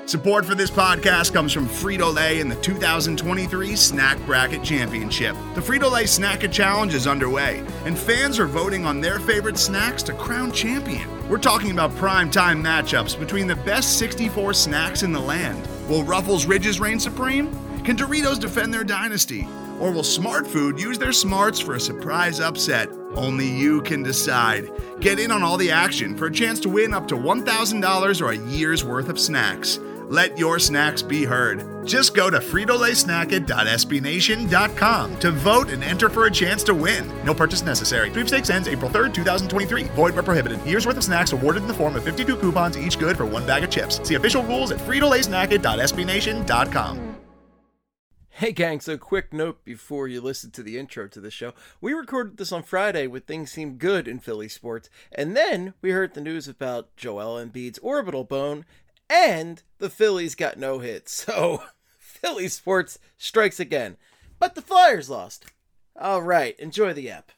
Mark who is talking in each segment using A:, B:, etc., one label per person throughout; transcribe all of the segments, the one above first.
A: Support for this podcast comes from Frito-Lay and the 2023 Snack Bracket Championship. The Frito-Lay Snack-A Challenge is underway, and fans are voting on their favorite snacks to crown champion. We're talking about prime-time matchups between the best 64 snacks in the land. Will Ruffles Ridges reign supreme? Can Doritos defend their dynasty? Or will Smart Food use their smarts for a surprise upset? Only you can decide. Get in on all the action for a chance to win up to $1,000 or a year's worth of snacks. Let your snacks be heard. Just go to fritolaysnacket.sbnation.com to vote and enter for a chance to win. No purchase necessary. Sweepstakes ends April 3rd, 2023. Void where prohibited. Year's worth of snacks awarded in the form of 52 coupons, each good for one bag of chips. See official rules at fritolaysnacket.sbnation.com.
B: Hey gang, so quick note before you listen to the intro to the show. We recorded this on Friday when things seemed good in Philly sports, and then we heard the news about Joel Embiid's orbital bone, and the Phillies got no hits. So, Philly sports strikes again. But the Flyers lost. All right, enjoy the app.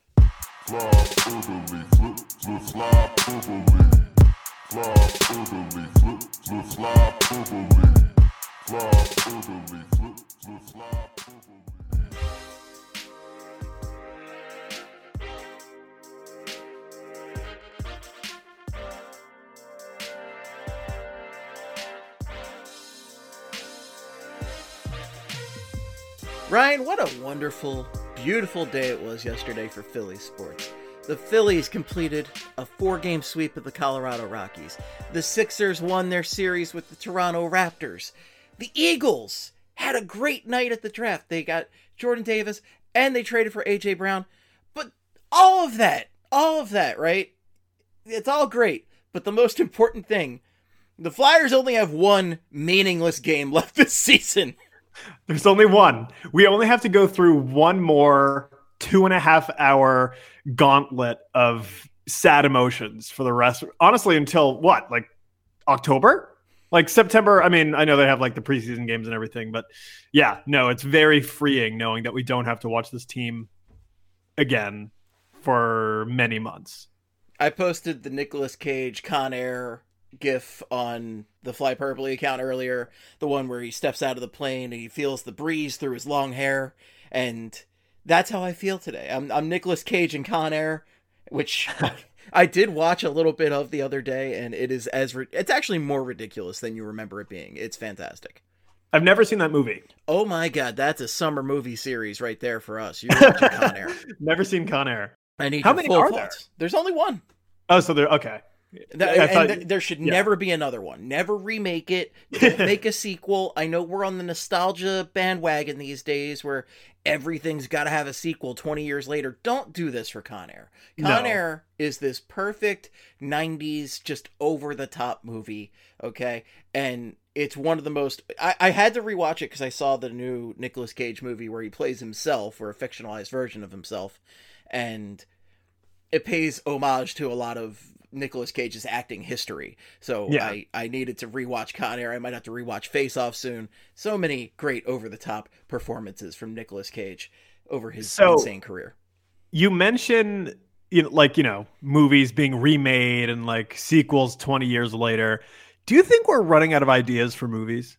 B: Ryan, what a wonderful, beautiful day it was yesterday for Philly sports. The Phillies completed a 4-game sweep of the Colorado Rockies. The Sixers won their series with the Toronto Raptors. The Eagles had a great night at the draft. They got Jordan Davis and they traded for A.J. Brown. But all of that, right? It's all great. But the most important thing, the Flyers only have one meaningless game left this season.
C: There's only one. We only have to go through one more 2.5-hour gauntlet of sad emotions for the rest. Honestly, until what? Like October? Like September? I mean, I know they have like the preseason games and everything, but yeah, no, it's very freeing knowing that we don't have to watch this team again for many months.
B: I posted the Nicolas Cage Con Air GIF on the Fly Purpley account earlier, the one where he steps out of the plane and he feels the breeze through his long hair, and that's how I feel today. I'm Nicolas Cage in Con Air, which I did watch a little bit of the other day, and it is it's actually more ridiculous than you remember it being. It's fantastic.
C: I've never seen that movie.
B: Oh my god, that's a summer movie series right there for us. You're watching Con Air.
C: Never seen Con Air.
B: I need
C: How many are
B: thoughts. There's only one.
C: Oh, so they're okay.
B: There should never be another one. Never remake it. Don't make a sequel. I know we're on the nostalgia bandwagon these days where everything's got to have a sequel 20 years later. Don't do this for Con Air. Con Air is this perfect 90s, just over-the-top movie, okay? And it's one of the most... I had to rewatch it because I saw the new Nicolas Cage movie where he plays himself, or a fictionalized version of himself, and it pays homage to a lot of Nicolas Cage's acting history. So yeah. I needed to rewatch Con Air. I might have to rewatch Face Off soon. So many great over-the-top performances from Nicolas Cage over his insane career.
C: You mentioned movies being remade and like sequels 20 years later. Do you think we're running out of ideas for movies?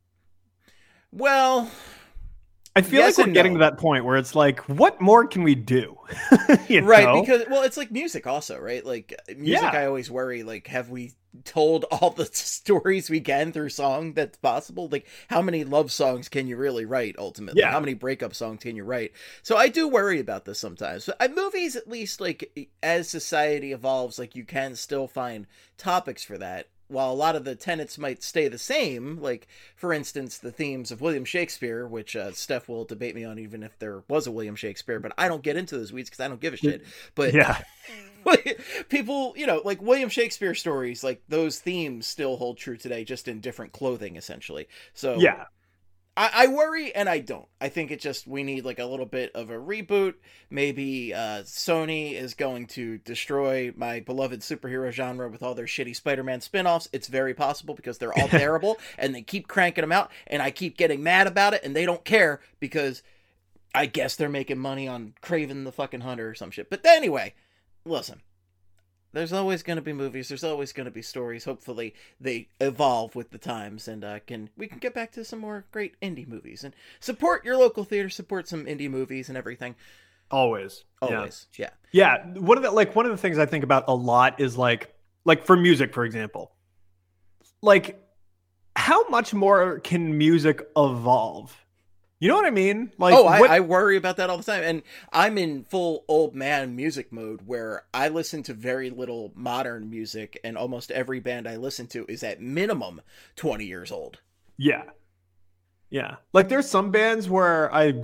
B: Well,
C: I feel like we're getting to that point where it's like, what more can we do?
B: Right, because, well, it's like music also, right? Like, music, I always worry, like, have we told all the stories we can through song that's possible? Like, how many love songs can you really write, ultimately? Yeah. How many breakup songs can you write? So I do worry about this sometimes. But movies, at least, like, as society evolves, like, you can still find topics for that. While a lot of the tenets might stay the same, like, for instance, the themes of William Shakespeare, which Steph will debate me on even if there was a William Shakespeare, but I don't get into those weeds because I don't give a shit. But yeah, people, like William Shakespeare stories, like those themes still hold true today, just in different clothing, essentially. So yeah. I worry and I don't. I think we need like a little bit of a reboot. Maybe Sony is going to destroy my beloved superhero genre with all their shitty Spider-Man spin-offs. It's very possible because they're all terrible and they keep cranking them out and I keep getting mad about it and they don't care because I guess they're making money on Kraven the fucking Hunter or some shit. But anyway, listen, there's always going to be movies. There's always going to be stories. Hopefully they evolve with the times, and we can get back to some more great indie movies and support your local theater, support some indie movies and everything.
C: Always.
B: Yeah.
C: Yeah. One of the things I think about a lot is like for music, for example, like how much more can music evolve? You know what I mean? Like,
B: I worry about that all the time. And I'm in full old man music mode where I listen to very little modern music, and almost every band I listen to is at minimum 20 years old.
C: Yeah. Yeah. Like there's some bands where I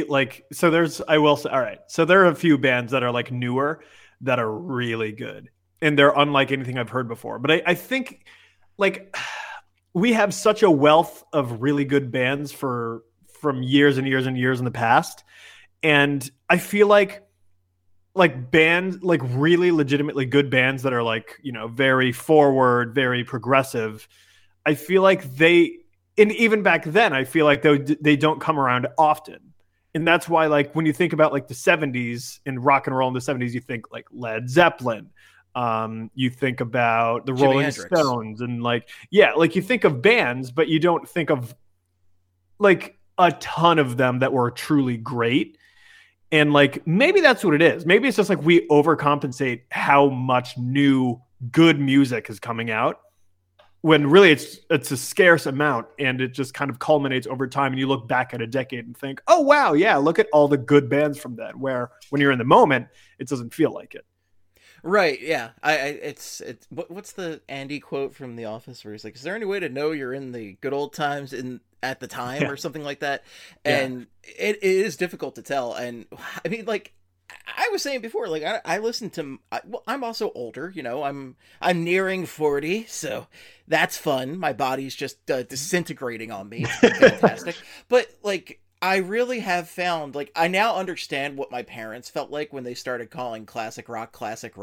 C: will say, all right. So there are a few bands that are like newer that are really good, and they're unlike anything I've heard before. But I think like we have such a wealth of really good bands from years and years and years in the past. And I feel like bands, like really legitimately good bands that are like, you know, very forward, very progressive. I feel like and even back then, I feel like they don't come around often. And that's why, like, when you think about like the 70s and rock and roll in the 70s, you think like Led Zeppelin. You think about the Rolling Stones and like you think of bands, but you don't think of like a ton of them that were truly great. And like maybe that's what it is. Maybe it's just like we overcompensate how much new good music is coming out, when really it's a scarce amount, and it just kind of culminates over time. And you look back at a decade and think, oh wow, yeah, look at all the good bands from then, where when you're in the moment it doesn't feel like it.
B: Right, yeah. It's what's the Andy quote from The Office where he's like, is there any way to know you're in the good old times at the time, or something like that? And it is difficult to tell. And I mean, like I was saying before, like I listen to, I'm also older, you know, I'm nearing 40, so that's fun. My body's just disintegrating on me. It's fantastic. But like, I really have found, like, I now understand what my parents felt like when they started calling classic rock.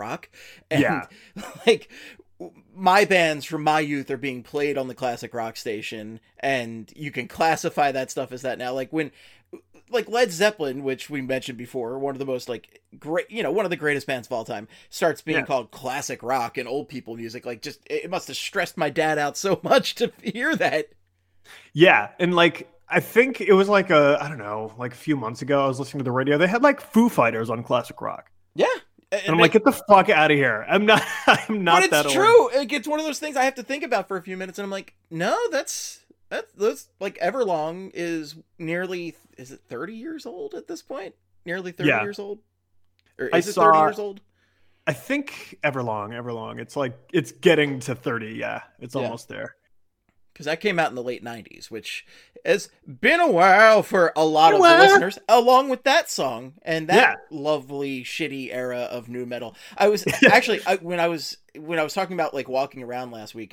B: And like, my bands from my youth are being played on the classic rock station, and you can classify that stuff as that now. Like when, like Led Zeppelin, which we mentioned before, one of the most like great, you know, one of the greatest bands of all time, starts being called classic rock and old people music. Like, just, it must have stressed my dad out so much to hear that.
C: Yeah. And like, I think it was like I don't know, like a few months ago, I was listening to the radio. They had like Foo Fighters on classic rock.
B: Yeah.
C: And I'm like, get the fuck out of here. I'm not
B: but
C: that
B: it's
C: old.
B: true. It's one of those things I have to think about for a few minutes. And I'm like, no, that's like Everlong is nearly, is it 30 years old at this point? Nearly 30 years old? Or is it 30 years old?
C: I think Everlong. It's like, it's getting to 30. Yeah. It's almost there.
B: Because that came out in the late 90s, which has been a while for a lot of the listeners, along with that song and that lovely, shitty era of nu metal. I was actually, when I was talking about like walking around last week,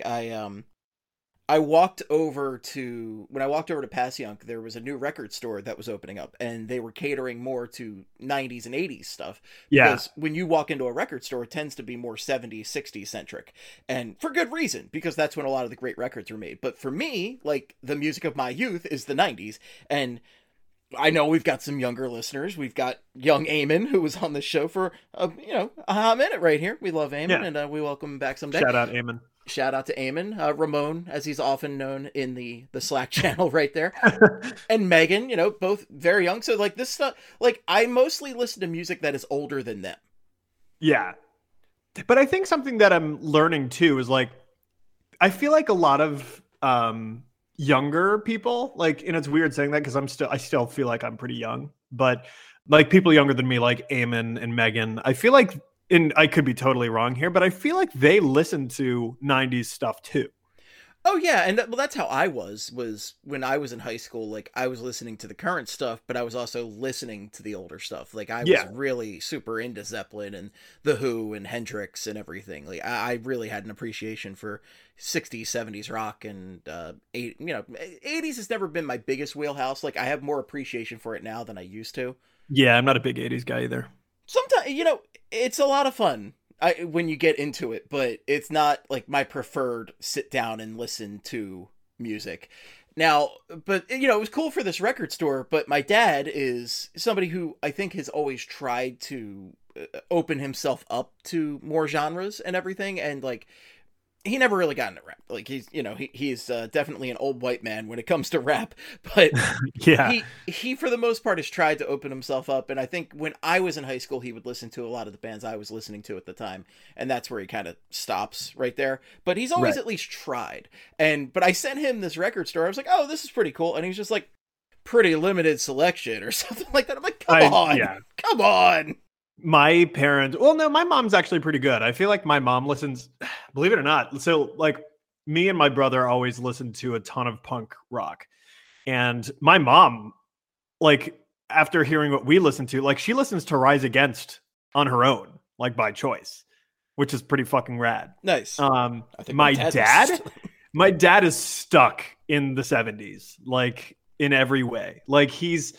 B: I walked over to Passyunk, there was a new record store that was opening up, and they were catering more to 90s and 80s stuff.
C: Yeah.
B: Because when you walk into a record store, it tends to be more 70s, 60s centric. And for good reason, because that's when a lot of the great records were made. But for me, like, the music of my youth is the 90s. And I know we've got some younger listeners. We've got young Eamon, who was on the show for, a hot minute right here. We love Eamon, and we welcome him back someday.
C: Shout out Eamon.
B: Shout out to Eamon, Ramon, as he's often known in the Slack channel right there, and Megan, you know, both very young. So like this stuff, like I mostly listen to music that is older than them. Yeah.
C: But I think something that I'm learning too is like, I feel like a lot of younger people, like, and it's weird saying that because I still feel like I'm pretty young, but like people younger than me, like Eamon and Megan, I feel like, and I could be totally wrong here, but I feel like they listen to 90s stuff too.
B: Oh yeah, and that's how I was when I was in high school. Like I was listening to the current stuff, but I was also listening to the older stuff. Like I was really super into Zeppelin and The Who and Hendrix and everything. Like I really had an appreciation for 60s, 70s rock, and 80s has never been my biggest wheelhouse. Like I have more appreciation for it now than I used to.
C: Yeah, I'm not a big 80s guy either.
B: Sometimes, it's a lot of fun when you get into it, but it's not like my preferred sit down and listen to music. Now, but it was cool for this record store, but my dad is somebody who I think has always tried to open himself up to more genres and everything. And like, he never really got into rap. Like he's definitely an old white man when it comes to rap, but
C: yeah,
B: he for the most part has tried to open himself up. And I think when I was in high school, he would listen to a lot of the bands I was listening to at the time. And that's where he kind of stops right there. But he's always at least tried. But I sent him this record store. I was like, oh, this is pretty cool. And he's just like, pretty limited selection or something like that. I'm like, come on.
C: My parents, well, no, my mom's actually pretty good. I feel like my mom listens, believe it or not. So like me and my brother always listened to a ton of punk rock. And my mom, like after hearing what we listen to, like she listens to Rise Against on her own, like by choice, which is pretty fucking rad.
B: Nice.
C: I think my dad is stuck in the 70s, like in every way. Like he'll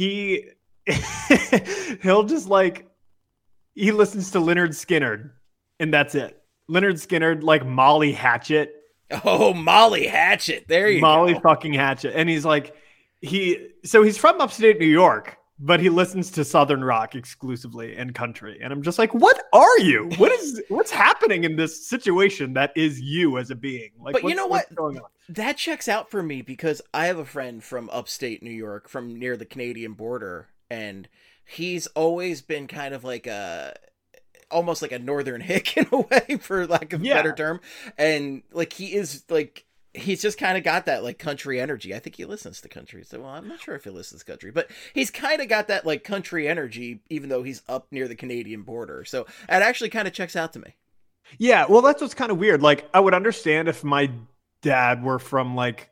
C: just like, he listens to Lynyrd Skynyrd, and that's it. Lynyrd Skynyrd, like Molly Hatchet.
B: Oh, Molly Hatchet. There you
C: Molly go. Fucking Hatchet. And he's like, he's from upstate New York, but he listens to Southern rock exclusively and country. And I'm just like, what are you? What's happening in this situation that is you as a being? Like,
B: but you know what? That checks out for me because I have a friend from upstate New York, from near the Canadian border, and he's always been kind of like almost like a northern hick in a way, for lack of a better term. And like, he's just kind of got that like country energy. I think he listens to country. So, well, I'm not sure if he listens to country, but he's kind of got that like country energy, even though he's up near the Canadian border. So it actually kind of checks out to me.
C: Yeah. Well, that's what's kind of weird. Like, I would understand if my dad were from like,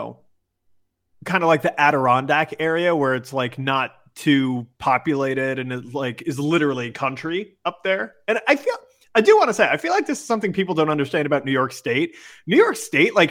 C: kind of like the Adirondack area where it's like not too populated and is literally country up there. And I do want to say, I feel like this is something people don't understand about New York State. New York State, like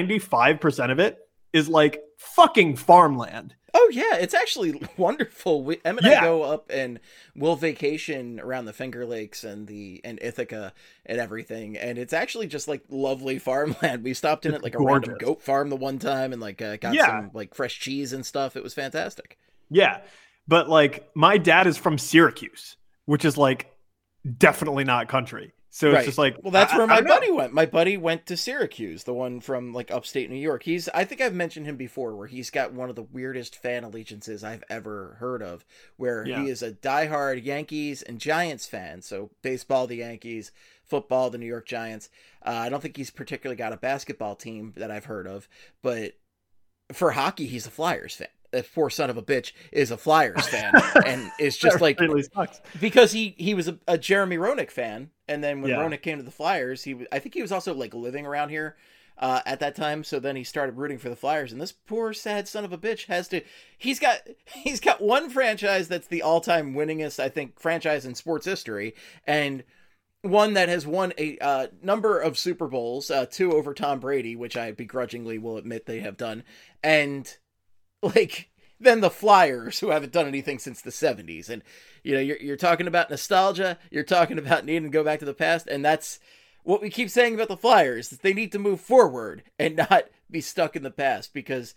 C: 95% of it is like fucking farmland.
B: Oh yeah, it's actually wonderful. Em and I go up and we'll vacation around the Finger Lakes and Ithaca and everything, and it's actually just like lovely farmland. We stopped in at like a random goat farm the one time and like got some like fresh cheese and stuff. It was fantastic.
C: Yeah. But like my dad is from Syracuse, which is like definitely not country. So it's just like,
B: well, that's where my buddy went. My buddy went to Syracuse, the one from like upstate New York. I think I've mentioned him before, where he's got one of the weirdest fan allegiances I've ever heard of, where he is a diehard Yankees and Giants fan. So baseball, the Yankees; football, the New York Giants. I don't think he's particularly got a basketball team that I've heard of, but for hockey, he's a Flyers fan. That poor son of a bitch is a Flyers fan and is just like,
C: really sucks.
B: Because he was a Jeremy Roenick fan. And then when Roenick came to the Flyers, I think he was also like living around here at that time. So then he started rooting for the Flyers, and this poor sad son of a bitch he's got one franchise that's the all-time winningest, I think, franchise in sports history. And one that has won a number of Super Bowls, 2 over Tom Brady, which I begrudgingly will admit they have done. And like, then the Flyers, who haven't done anything since the 70s. And, you're talking about nostalgia. You're talking about needing to go back to the past. And that's what we keep saying about the Flyers. They need to move forward and not be stuck in the past. Because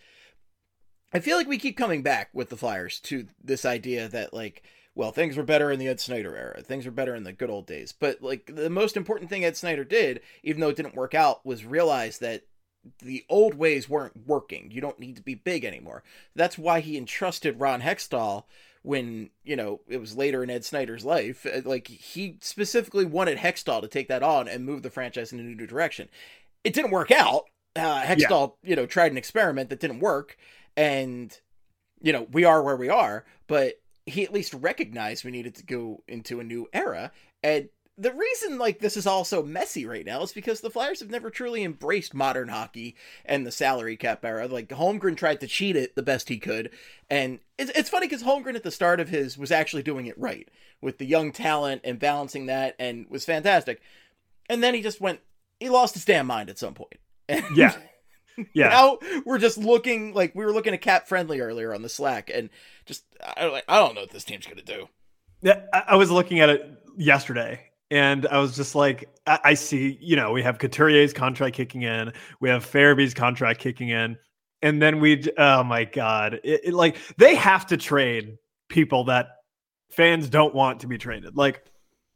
B: I feel like we keep coming back with the Flyers to this idea that, like, well, things were better in the Ed Snyder era. Things were better in the good old days. But, like, the most important thing Ed Snyder did, even though it didn't work out, was realize that the old ways weren't working. You don't need to be big anymore. That's why he entrusted Ron Hextall when, it was later in Ed Snyder's life. Like, he specifically wanted Hextall to take that on and move the franchise in a new direction. It didn't work out. Hextall, tried an experiment that didn't work. And, we are where we are. But he at least recognized we needed to go into a new era. And the reason like this is all so messy right now is because the Flyers have never truly embraced modern hockey and the salary cap era. Like, Holmgren tried to cheat it the best he could. And it's funny because Holmgren at the start of his was actually doing it right with the young talent and balancing that, and was fantastic. And then he lost his damn mind at some point.
C: Yeah.
B: Now we're just looking like, we were looking at Cap Friendly earlier on the Slack, and just, I don't know what this team's going to do.
C: Yeah. I was looking at it yesterday. And I was just like, I see, we have Couturier's contract kicking in. We have Farabee's contract kicking in. And then oh my God, like, they have to trade people that fans don't want to be traded. Like,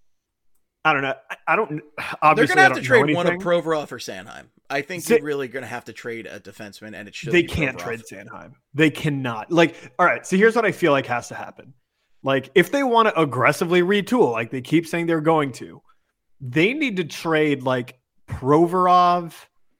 C: I don't know. I don't. Obviously,
B: they're gonna have to trade one of Provorov or Sanheim. I think you're really gonna have to trade a defenseman, and it should.
C: They can't trade Sanheim. They cannot. Like, all right. So here's what I feel like has to happen. Like, if they want to aggressively retool, like they keep saying they're going to, they need to trade like Provorov.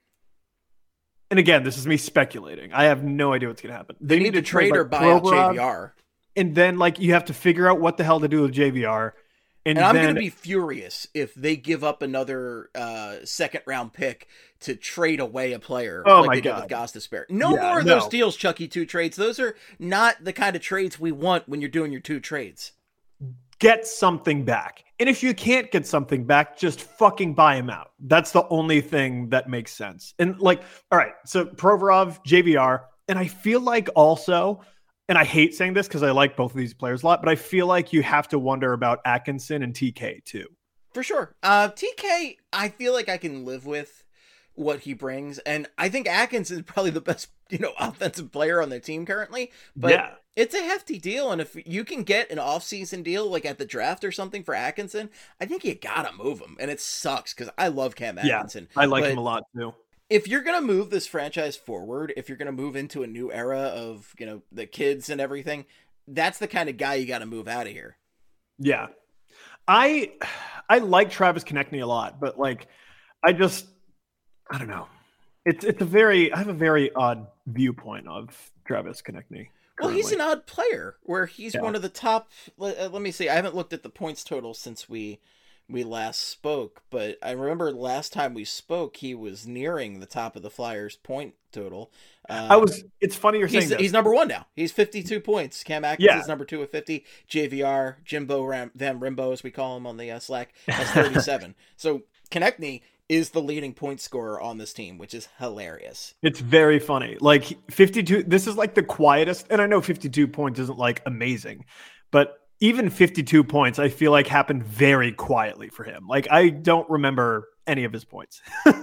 C: And again, this is me speculating. I have no idea what's gonna happen.
B: They need to trade or buy out JVR,
C: and then like you have to figure out what the hell to do with JVR.
B: And I'm going to be furious if they give up another second round pick to trade away a player like they did with Gostisbehere. No more of those deals, Chucky 2 trades. Those are not the kind of trades we want when you're doing your 2 trades.
C: Get something back. And if you can't get something back, just fucking buy him out. That's the only thing that makes sense. And like, all right, so Provorov, JVR, and I feel like also... And I hate saying this because I like both of these players a lot, but I feel like you have to wonder about Atkinson and TK too.
B: For sure. TK, I feel like I can live with what he brings. And I think Atkinson is probably the best, offensive player on their team currently. But it's a hefty deal. And if you can get an off-season deal, like at the draft or something for Atkinson, I think you got to move him. And it sucks because I love Cam Atkinson.
C: I like him a lot too.
B: If you're going to move this franchise forward, if you're going to move into a new era of, the kids and everything, that's the kind of guy you got to move out of here.
C: Yeah. I like Travis Konechny a lot, but like, I don't know. I have a very odd viewpoint of Travis Konechny.
B: Well, he's an odd player where he's one of the top, let me see. I haven't looked at the points total since we last spoke, but I remember last time we spoke, he was nearing the top of the Flyers point total.
C: It's funny you're saying that.
B: He's number 1 now. He's 52 points. Cam Atkinson's number 2 with 50. JVR, Jimbo Van Rimbo, as we call him on the Slack, has 37. So Konechny is the leading point scorer on this team, which is hilarious.
C: It's very funny. Like 52, this is like the quietest, and I know 52 points isn't like amazing, but even 52 points, I feel like happened very quietly for him. Like, I don't remember any of his points.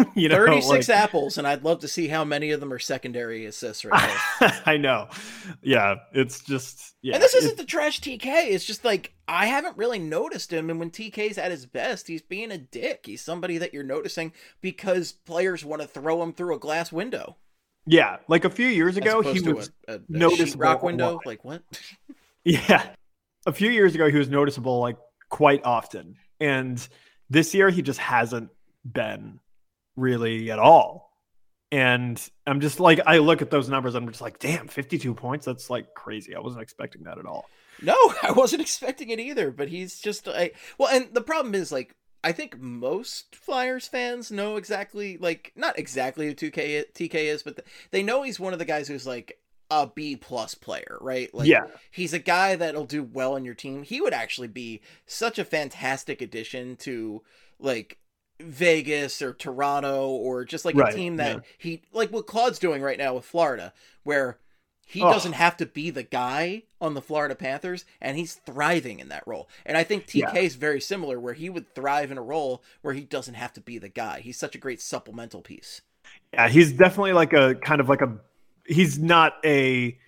B: 36 apples, and I'd love to see how many of them are secondary assists right now.
C: I know. Yeah, it's just... Yeah,
B: and this isn't the trash TK. It's just like, I haven't really noticed him, and when TK's at his best, he's being a dick. He's somebody that you're noticing because players want to throw him through a glass window.
C: Yeah, like a few years ago, he was
B: a sheetrock window. Like, what?
C: Yeah. A few years ago, he was noticeable like quite often. And this year, he just hasn't been really at all. And I'm just like, I look at those numbers, I'm just like, damn, 52 points. That's like crazy. I wasn't expecting that at all.
B: No, I wasn't expecting it either. But he's just well, and the problem is like, I think most Flyers fans know exactly, like, not exactly who TK is, but they know he's one of the guys who's like a B+ player, right? Like, he's a guy that'll do well on your team. He would actually be such a fantastic addition to like Vegas or Toronto or just like a team that he, like what Claude's doing right now with Florida, where he doesn't have to be the guy on the Florida Panthers, and he's thriving in that role. And I think TK is very similar, where he would thrive in a role where he doesn't have to be the guy. He's such a great supplemental piece.
C: Yeah, he's definitely like a kind of like a, he's not a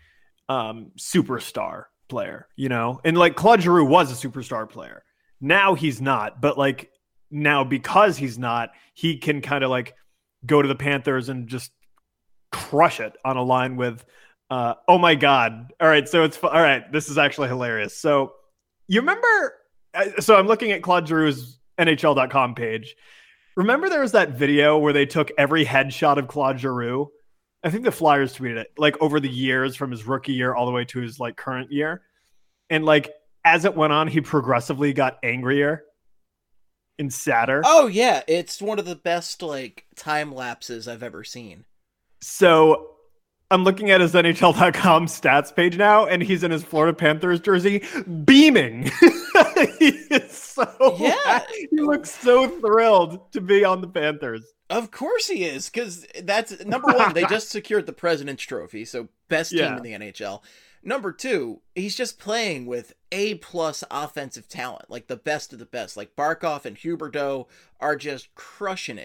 C: superstar player, and like Claude Giroux was a superstar player. Now he's not, but like now because he's not, he can kind of like go to the Panthers and just crush it on a line with, oh my God. All right. So all right. This is actually hilarious. So you remember, so I'm looking at Claude Giroux's NHL.com page. Remember there was that video where they took every headshot of Claude Giroux? I think the Flyers tweeted it, like over the years from his rookie year all the way to his like current year. And like, as it went on, he progressively got angrier and sadder.
B: Oh yeah. It's one of the best like time lapses I've ever seen.
C: So I'm looking at his NHL.com stats page now, and he's in his Florida Panthers jersey, beaming. He is so happy. He looks so thrilled to be on the Panthers.
B: Of course he is, because that's number one. They just secured the President's Trophy, so best team in the NHL. Number two, he's just playing with A+ offensive talent, like the best of the best. Like Barkov and Huberdeau are just crushing it.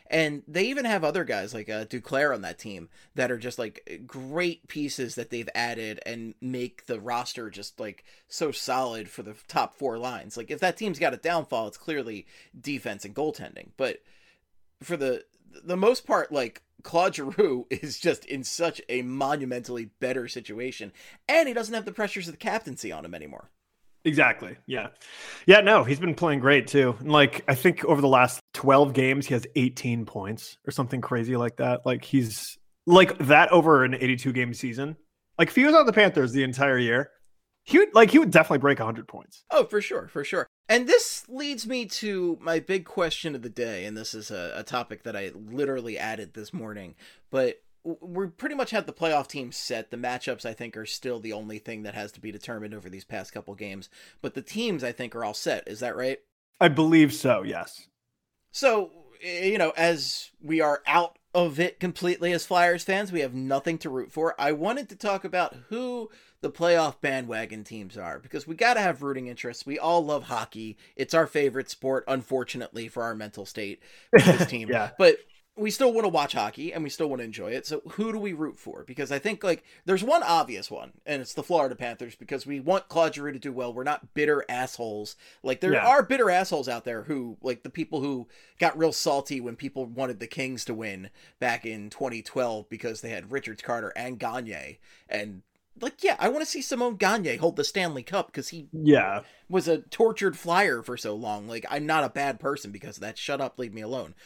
B: And they even have other guys like Duclair on that team that are just like great pieces that they've added and make the roster just like so solid for the top 4 lines. Like if that team's got a downfall, it's clearly defense and goaltending. But for the most part, like Claude Giroux is just in such a monumentally better situation, and he doesn't have the pressures of the captaincy on him anymore.
C: Exactly. Yeah. Yeah, no, he's been playing great too. And like, I think over the last 12 games, he has 18 points or something crazy like that. Like he's like that over an 82 game season. Like if he was on the Panthers the entire year, he would definitely break 100 points.
B: Oh, for sure. For sure. And this leads me to my big question of the day. And this is a topic that I literally added this morning, but we pretty much have the playoff team set. The matchups, I think, are still the only thing that has to be determined over these past couple games. But the teams, I think, are all set. Is that right?
C: I believe so, yes.
B: So, you know, as we are out of it completely as Flyers fans, we have nothing to root for. I wanted to talk about who the playoff bandwagon teams are, because we got to have rooting interests. We all love hockey. It's our favorite sport, unfortunately, for our mental state with this team.
C: Yeah.
B: But we still want to watch hockey and we still want to enjoy it. So who do we root for? Because I think like there's one obvious one, and it's the Florida Panthers, because we want Claude Giroux to do well. We're not bitter assholes. Like there are bitter assholes out there who, like the people who got real salty when people wanted the Kings to win back in 2012 because they had Richards, Carter, and Gagne. And like, yeah, I want to see Simon Gagne hold the Stanley Cup because he was a tortured Flyer for so long. Like, I'm not a bad person because of that. Shut up, leave me alone.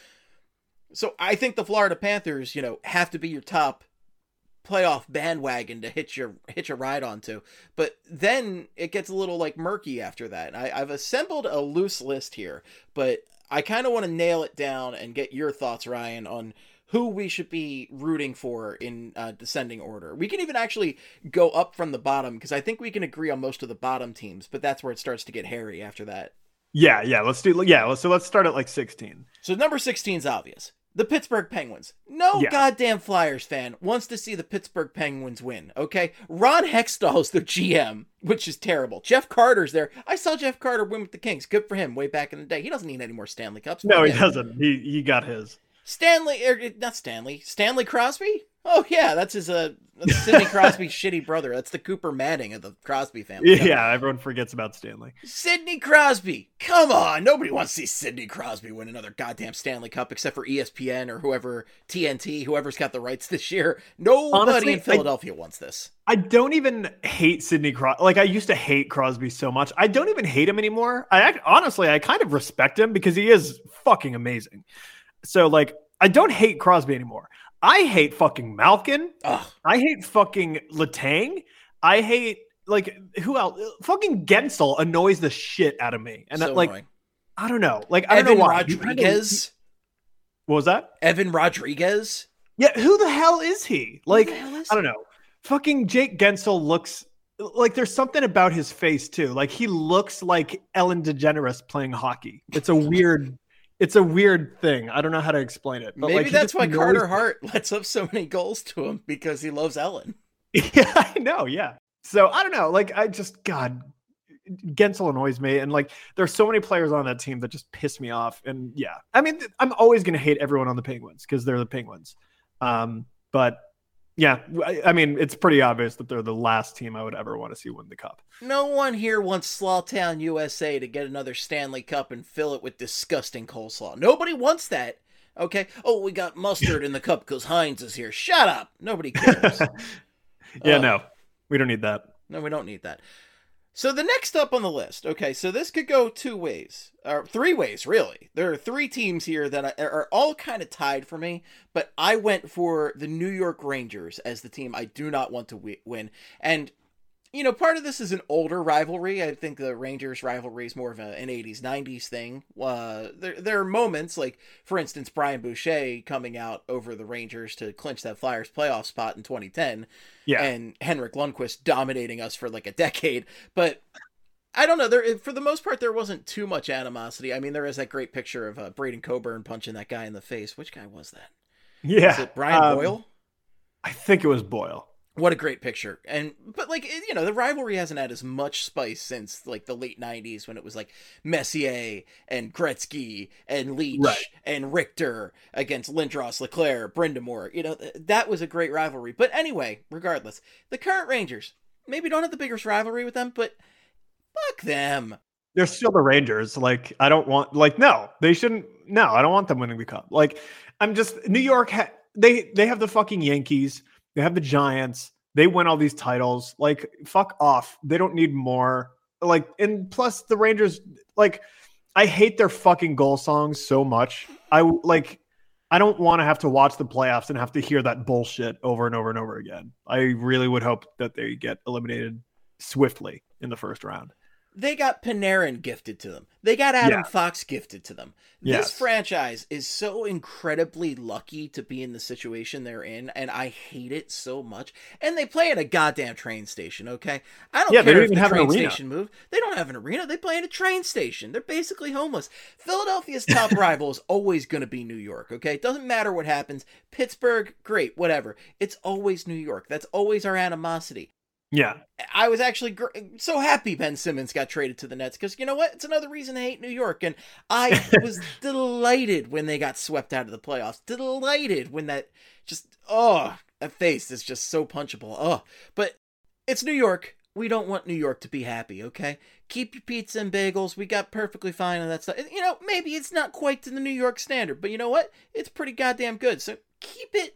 B: So I think the Florida Panthers, you know, have to be your top playoff bandwagon to hitch a ride onto. But then it gets a little like murky after that. I've assembled a loose list here, but I kind of want to nail it down and get your thoughts, Ryan, on who we should be rooting for in descending order. We can even actually go up from the bottom, because I think we can agree on most of the bottom teams, but that's where it starts to get hairy after that.
C: Yeah, let's start at like 16.
B: So number 16 is obvious. The Pittsburgh Penguins. No goddamn Flyers fan wants to see the Pittsburgh Penguins win, okay? Ron Hextall's the GM, which is terrible. Jeff Carter's there. I saw Jeff Carter win with the Kings. Good for him way back in the day. He doesn't need any more Stanley Cups.
C: No, he doesn't. He got his. Stanley Crosby? Oh, yeah, that's his that's Sidney Crosby's shitty brother. That's the Cooper Manning of the Crosby family. Yeah, everyone forgets about Stanley.
B: Sidney Crosby! Come on! Nobody wants to see Sidney Crosby win another goddamn Stanley Cup except for ESPN or whoever, TNT, whoever's got the rights this year. Nobody Honestly, in Philadelphia wants this.
C: I don't even hate Sidney Crosby. Like, I used to hate Crosby so much. I don't even hate him anymore. Honestly, I kind of respect him because he is fucking amazing. So, like, I don't hate Crosby anymore. I hate fucking Malkin.
B: Ugh.
C: I hate fucking Letang. I hate, like, who else? Fucking Gensel annoys the shit out of me. And
B: so
C: like,
B: annoying.
C: I don't know. Like, I don't know why.
B: Rodriguez.
C: What was that?
B: Evan Rodriguez.
C: Yeah, who the hell is he? Like,
B: I
C: don't know. Fucking Jake Gensel looks like there's something about his face too. Like he looks like Ellen DeGeneres playing hockey. It's a weird thing. I don't know how to explain it. But
B: maybe
C: like,
B: that's why Carter Hart lets up so many goals to him, because he loves Ellen.
C: Yeah, I know. Yeah. So I don't know. Like God, Gensel annoys me. And like, there's so many players on that team that just piss me off. And yeah, I mean, I'm always going to hate everyone on the Penguins because they're the Penguins. But yeah, I mean, it's pretty obvious that they're the last team I would ever want to see win the cup.
B: No one here wants Slawtown, USA to get another Stanley Cup and fill it with disgusting coleslaw. Nobody wants that. Okay? Oh, we got mustard in the cup because Heinz is here. Shut up. Nobody cares.
C: No, we don't need that.
B: No, we don't need that. So the next up on the list, okay, so this could go 2 ways, or 3 ways, really. There are 3 teams here that are all kind of tied for me, but I went for the New York Rangers as the team I do not want to win. And, you know, part of this is an older rivalry. I think the Rangers rivalry is more of an 80s, 90s thing. There are moments, like, for instance, Brian Boucher coming out over the Rangers to clinch that Flyers playoff spot in 2010.
C: Yeah.
B: And Henrik Lundqvist dominating us for like a decade. But I don't know. For the most part, there wasn't too much animosity. I mean, there is that great picture of Braden Coburn punching that guy in the face. Which guy was that?
C: Yeah.
B: Was it Brian Boyle?
C: I think it was Boyle.
B: What a great picture. But like, you know, the rivalry hasn't had as much spice since like the late 90s when it was like Messier and Gretzky and Leach and Richter against Lindros, Leclerc, Brind'Amour. You know, that was a great rivalry. But anyway, regardless, the current Rangers maybe don't have the biggest rivalry with them, but fuck them.
C: They're still the Rangers. Like, I don't want, like, no, they shouldn't. No, I don't want them winning the cup. Like, I'm just, New York, they have the fucking Yankees. They have the Giants. They win all these titles. Like, fuck off. They don't need more. Like, and plus the Rangers, like, I hate their fucking goal songs so much. I don't want to have to watch the playoffs and have to hear that bullshit over and over and over again. I really would hope that they get eliminated swiftly in the first round.
B: They got Panarin gifted to them. They got Adam Fox gifted to them. This franchise is so incredibly lucky to be in the situation they're in, and I hate it so much. And they play at a goddamn train station, okay? I don't care if the train station moved. They don't have an arena. They play at a train station. They're basically homeless. Philadelphia's top rival is always going to be New York, okay? It doesn't matter what happens. Pittsburgh, great, whatever. It's always New York. That's always our animosity.
C: Yeah.
B: I was actually so happy Ben Simmons got traded to the Nets because, you know what? It's another reason to hate New York. And I was delighted when they got swept out of the playoffs. Delighted when that that face is just so punchable. But it's New York. We don't want New York to be happy, okay? Keep your pizza and bagels. We got perfectly fine on that stuff. You know, maybe it's not quite to the New York standard, but you know what? It's pretty goddamn good. So keep it.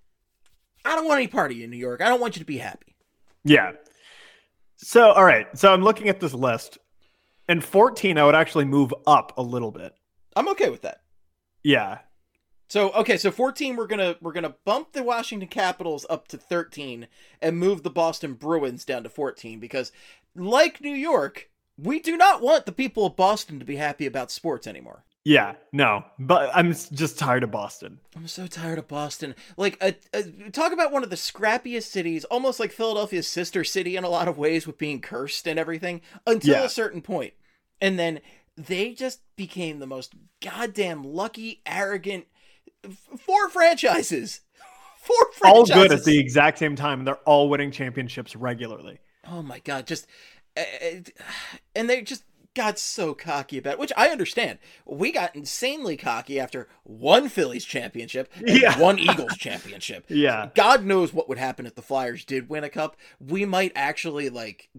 B: I don't want any part of you in New York. I don't want you to be happy.
C: Yeah. So, all right. So I'm looking at this list. And 14, I would actually move up a little bit.
B: I'm okay with that.
C: Yeah.
B: So, okay. So 14, we're gonna bump the Washington Capitals up to 13 and move the Boston Bruins down to 14 because, like New York, we do not want the people of Boston to be happy about sports anymore.
C: Yeah, no, but I'm just tired of Boston.
B: I'm so tired of Boston. Like, talk about one of the scrappiest cities, almost like Philadelphia's sister city in a lot of ways with being cursed and everything, until a certain point. And then they just became the most goddamn lucky, arrogant, four franchises.
C: All good at the exact same time, and they're all winning championships regularly.
B: Oh my God, just... and they just... got so cocky about it, which I understand. We got insanely cocky after one Phillies championship and one Eagles championship.
C: Yeah.
B: God knows what would happen if the Flyers did win a cup. We might actually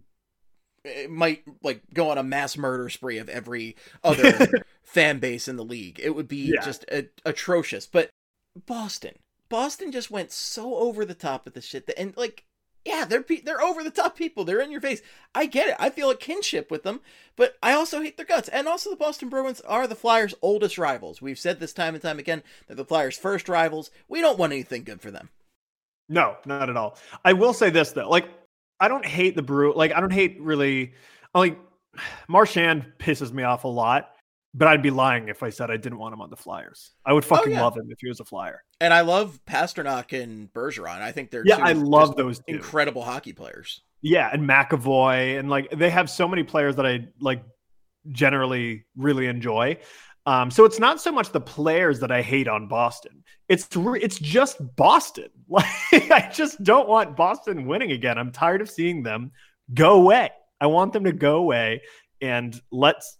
B: go on a mass murder spree of every other fan base in the league. It would be just atrocious. But Boston just went so over the top with the shit and they're over the top people. They're in your face. I get it. I feel a kinship with them, but I also hate their guts. And also the Boston Bruins are the Flyers' oldest rivals. We've said this time and time again. They're the Flyers' first rivals. We don't want anything good for them.
C: No, not at all. I will say this though. Like, I don't hate the Brew. Like, I don't hate really. Like, Marchand pisses me off a lot. But I'd be lying if I said I didn't want him on the Flyers. I would fucking love him if he was a Flyer.
B: And I love Pasternak and Bergeron. I think they're
C: I love those two.
B: Incredible hockey players.
C: Yeah, and McAvoy, and like they have so many players that I like generally really enjoy. So it's not so much the players that I hate on Boston. It's just Boston. Like, I just don't want Boston winning again. I'm tired of seeing them go away. I want them to go away and let's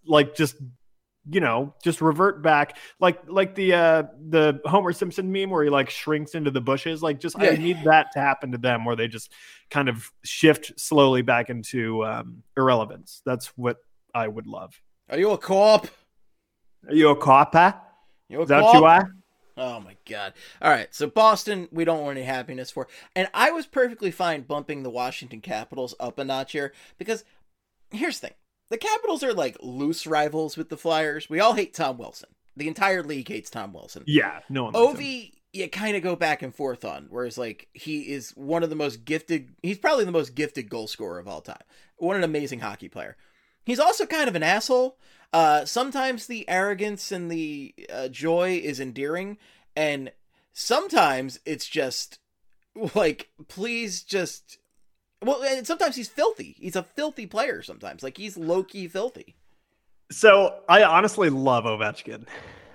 C: just revert back like the Homer Simpson meme where he like shrinks into the bushes. Like, just I need that to happen to them where they just kind of shift slowly back into irrelevance. That's what I would love.
B: Are you a co-op?
C: Are you a co-op?
B: You a
C: Is that what you are?
B: Oh my God. All right. So Boston, we don't want any happiness for. And I was perfectly fine bumping the Washington Capitals up a notch here because here's the thing. The Capitals are like loose rivals with the Flyers. We all hate Tom Wilson. The entire league hates Tom Wilson.
C: Yeah, no one likes him.
B: Ovi, you kind of go back and forth on, whereas like he is one of the most gifted. He's probably the most gifted goal scorer of all time. What an amazing hockey player. He's also kind of an asshole. Sometimes the arrogance and the joy is endearing, and sometimes it's just like, please just. Well, and sometimes he's filthy. He's a filthy player sometimes. Like, he's low-key filthy.
C: So, I honestly love Ovechkin.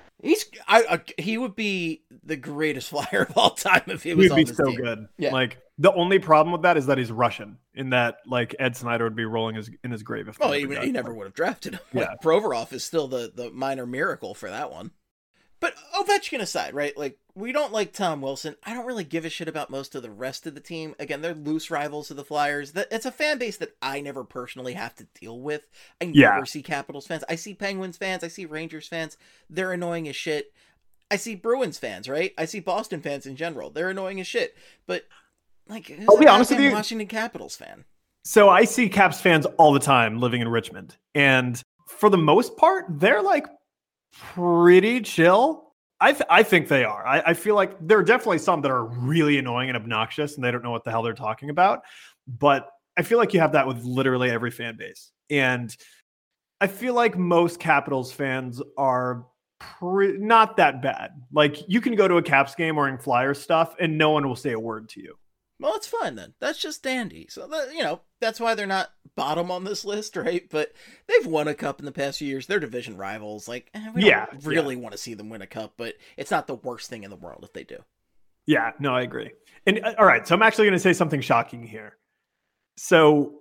B: He would be the greatest Flyer of all time if he was on this team.
C: He would be so good.
B: Yeah.
C: Like, The only problem with that is that he's Russian, in that like Ed Snyder would be rolling in his grave if
B: he never would have drafted him. Yeah. Like, Provorov is still the minor miracle for that one. But Ovechkin aside, right? Like, we don't like Tom Wilson. I don't really give a shit about most of the rest of the team. Again, they're loose rivals of the Flyers. It's a fan base that I never personally have to deal with. I never see Capitals fans. I see Penguins fans. I see Rangers fans. They're annoying as shit. I see Bruins fans, right? I see Boston fans in general. They're annoying as shit. But, like, who's
C: I'll be honest with you,
B: Washington Capitals fan?
C: So I see Caps fans all the time living in Richmond. And for the most part, they're like pretty chill. I think they are. I feel like there are definitely some that are really annoying and obnoxious and they don't know what the hell they're talking about. But I feel like you have that with literally every fan base. And I feel like most Capitals fans are not that bad. Like, you can go to a Caps game wearing Flyers stuff and no one will say a word to you.
B: Well, it's fine then. That's just dandy. So, that's why they're not bottom on this list, right? But they've won a cup in the past few years. They're division rivals. Like, we don't really want to see them win a cup, but it's not the worst thing in the world if they do.
C: Yeah, no, I agree. And all right, so I'm actually going to say something shocking here. So,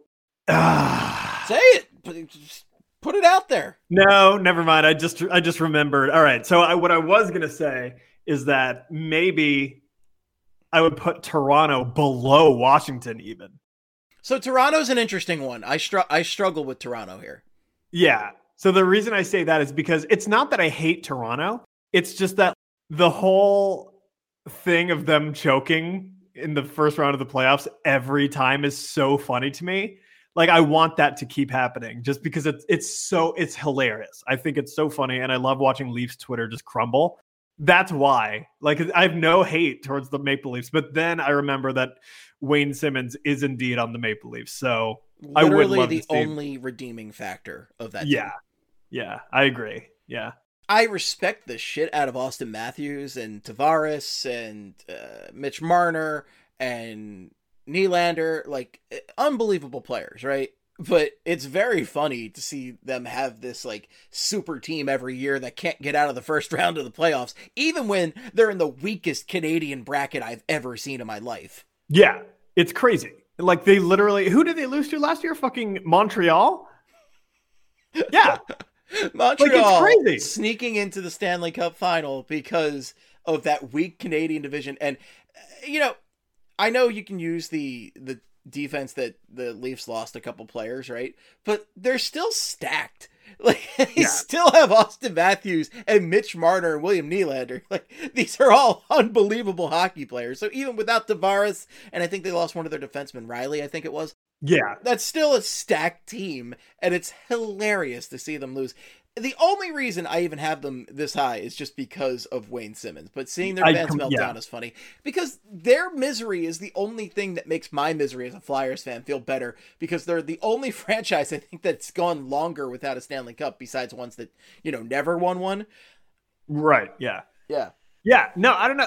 B: say it. Put it out there.
C: No, never mind. I just remembered. All right, so what I was going to say is that maybe I would put Toronto below Washington even.
B: So Toronto's an interesting one. I struggle with Toronto here.
C: Yeah. So the reason I say that is because it's not that I hate Toronto. It's just that the whole thing of them choking in the first round of the playoffs every time is so funny to me. Like, I want that to keep happening just because it's hilarious. I think it's so funny. And I love watching Leafs Twitter just crumble. That's why. Like, I have no hate towards the Maple Leafs, but then I remember that Wayne Simmons is indeed on the Maple Leafs. So
B: literally
C: I would love
B: the only redeeming factor of that
C: team.
B: Team.
C: Yeah, I agree. Yeah.
B: I respect the shit out of Austin Matthews and Tavares and Mitch Marner and Nylander, like, unbelievable players, right? But it's very funny to see them have this like super team every year that can't get out of the first round of the playoffs, even when they're in the weakest Canadian bracket I've ever seen in my life.
C: Yeah, it's crazy. Like, they literally, who did they lose to last year? Fucking Montreal? Yeah.
B: Montreal,
C: like, it's crazy.
B: Sneaking into the Stanley Cup final because of that weak Canadian division. And, I know you can use the defense that the Leafs lost a couple players, right? But they're still stacked. Like, they still have Austin Matthews and Mitch Marner and William Nylander. Like, these are all unbelievable hockey players. So even without Tavares, and I think they lost one of their defensemen, Riley, I think it was.
C: Yeah.
B: That's still a stacked team, and it's hilarious to see them lose. The only reason I even have them this high is just because of Wayne Simmons. But seeing their fans melt down is funny. Because their misery is the only thing that makes my misery as a Flyers fan feel better. Because they're the only franchise, I think, that's gone longer without a Stanley Cup besides ones that, never won one.
C: Right, yeah.
B: Yeah.
C: Yeah, no, I don't know.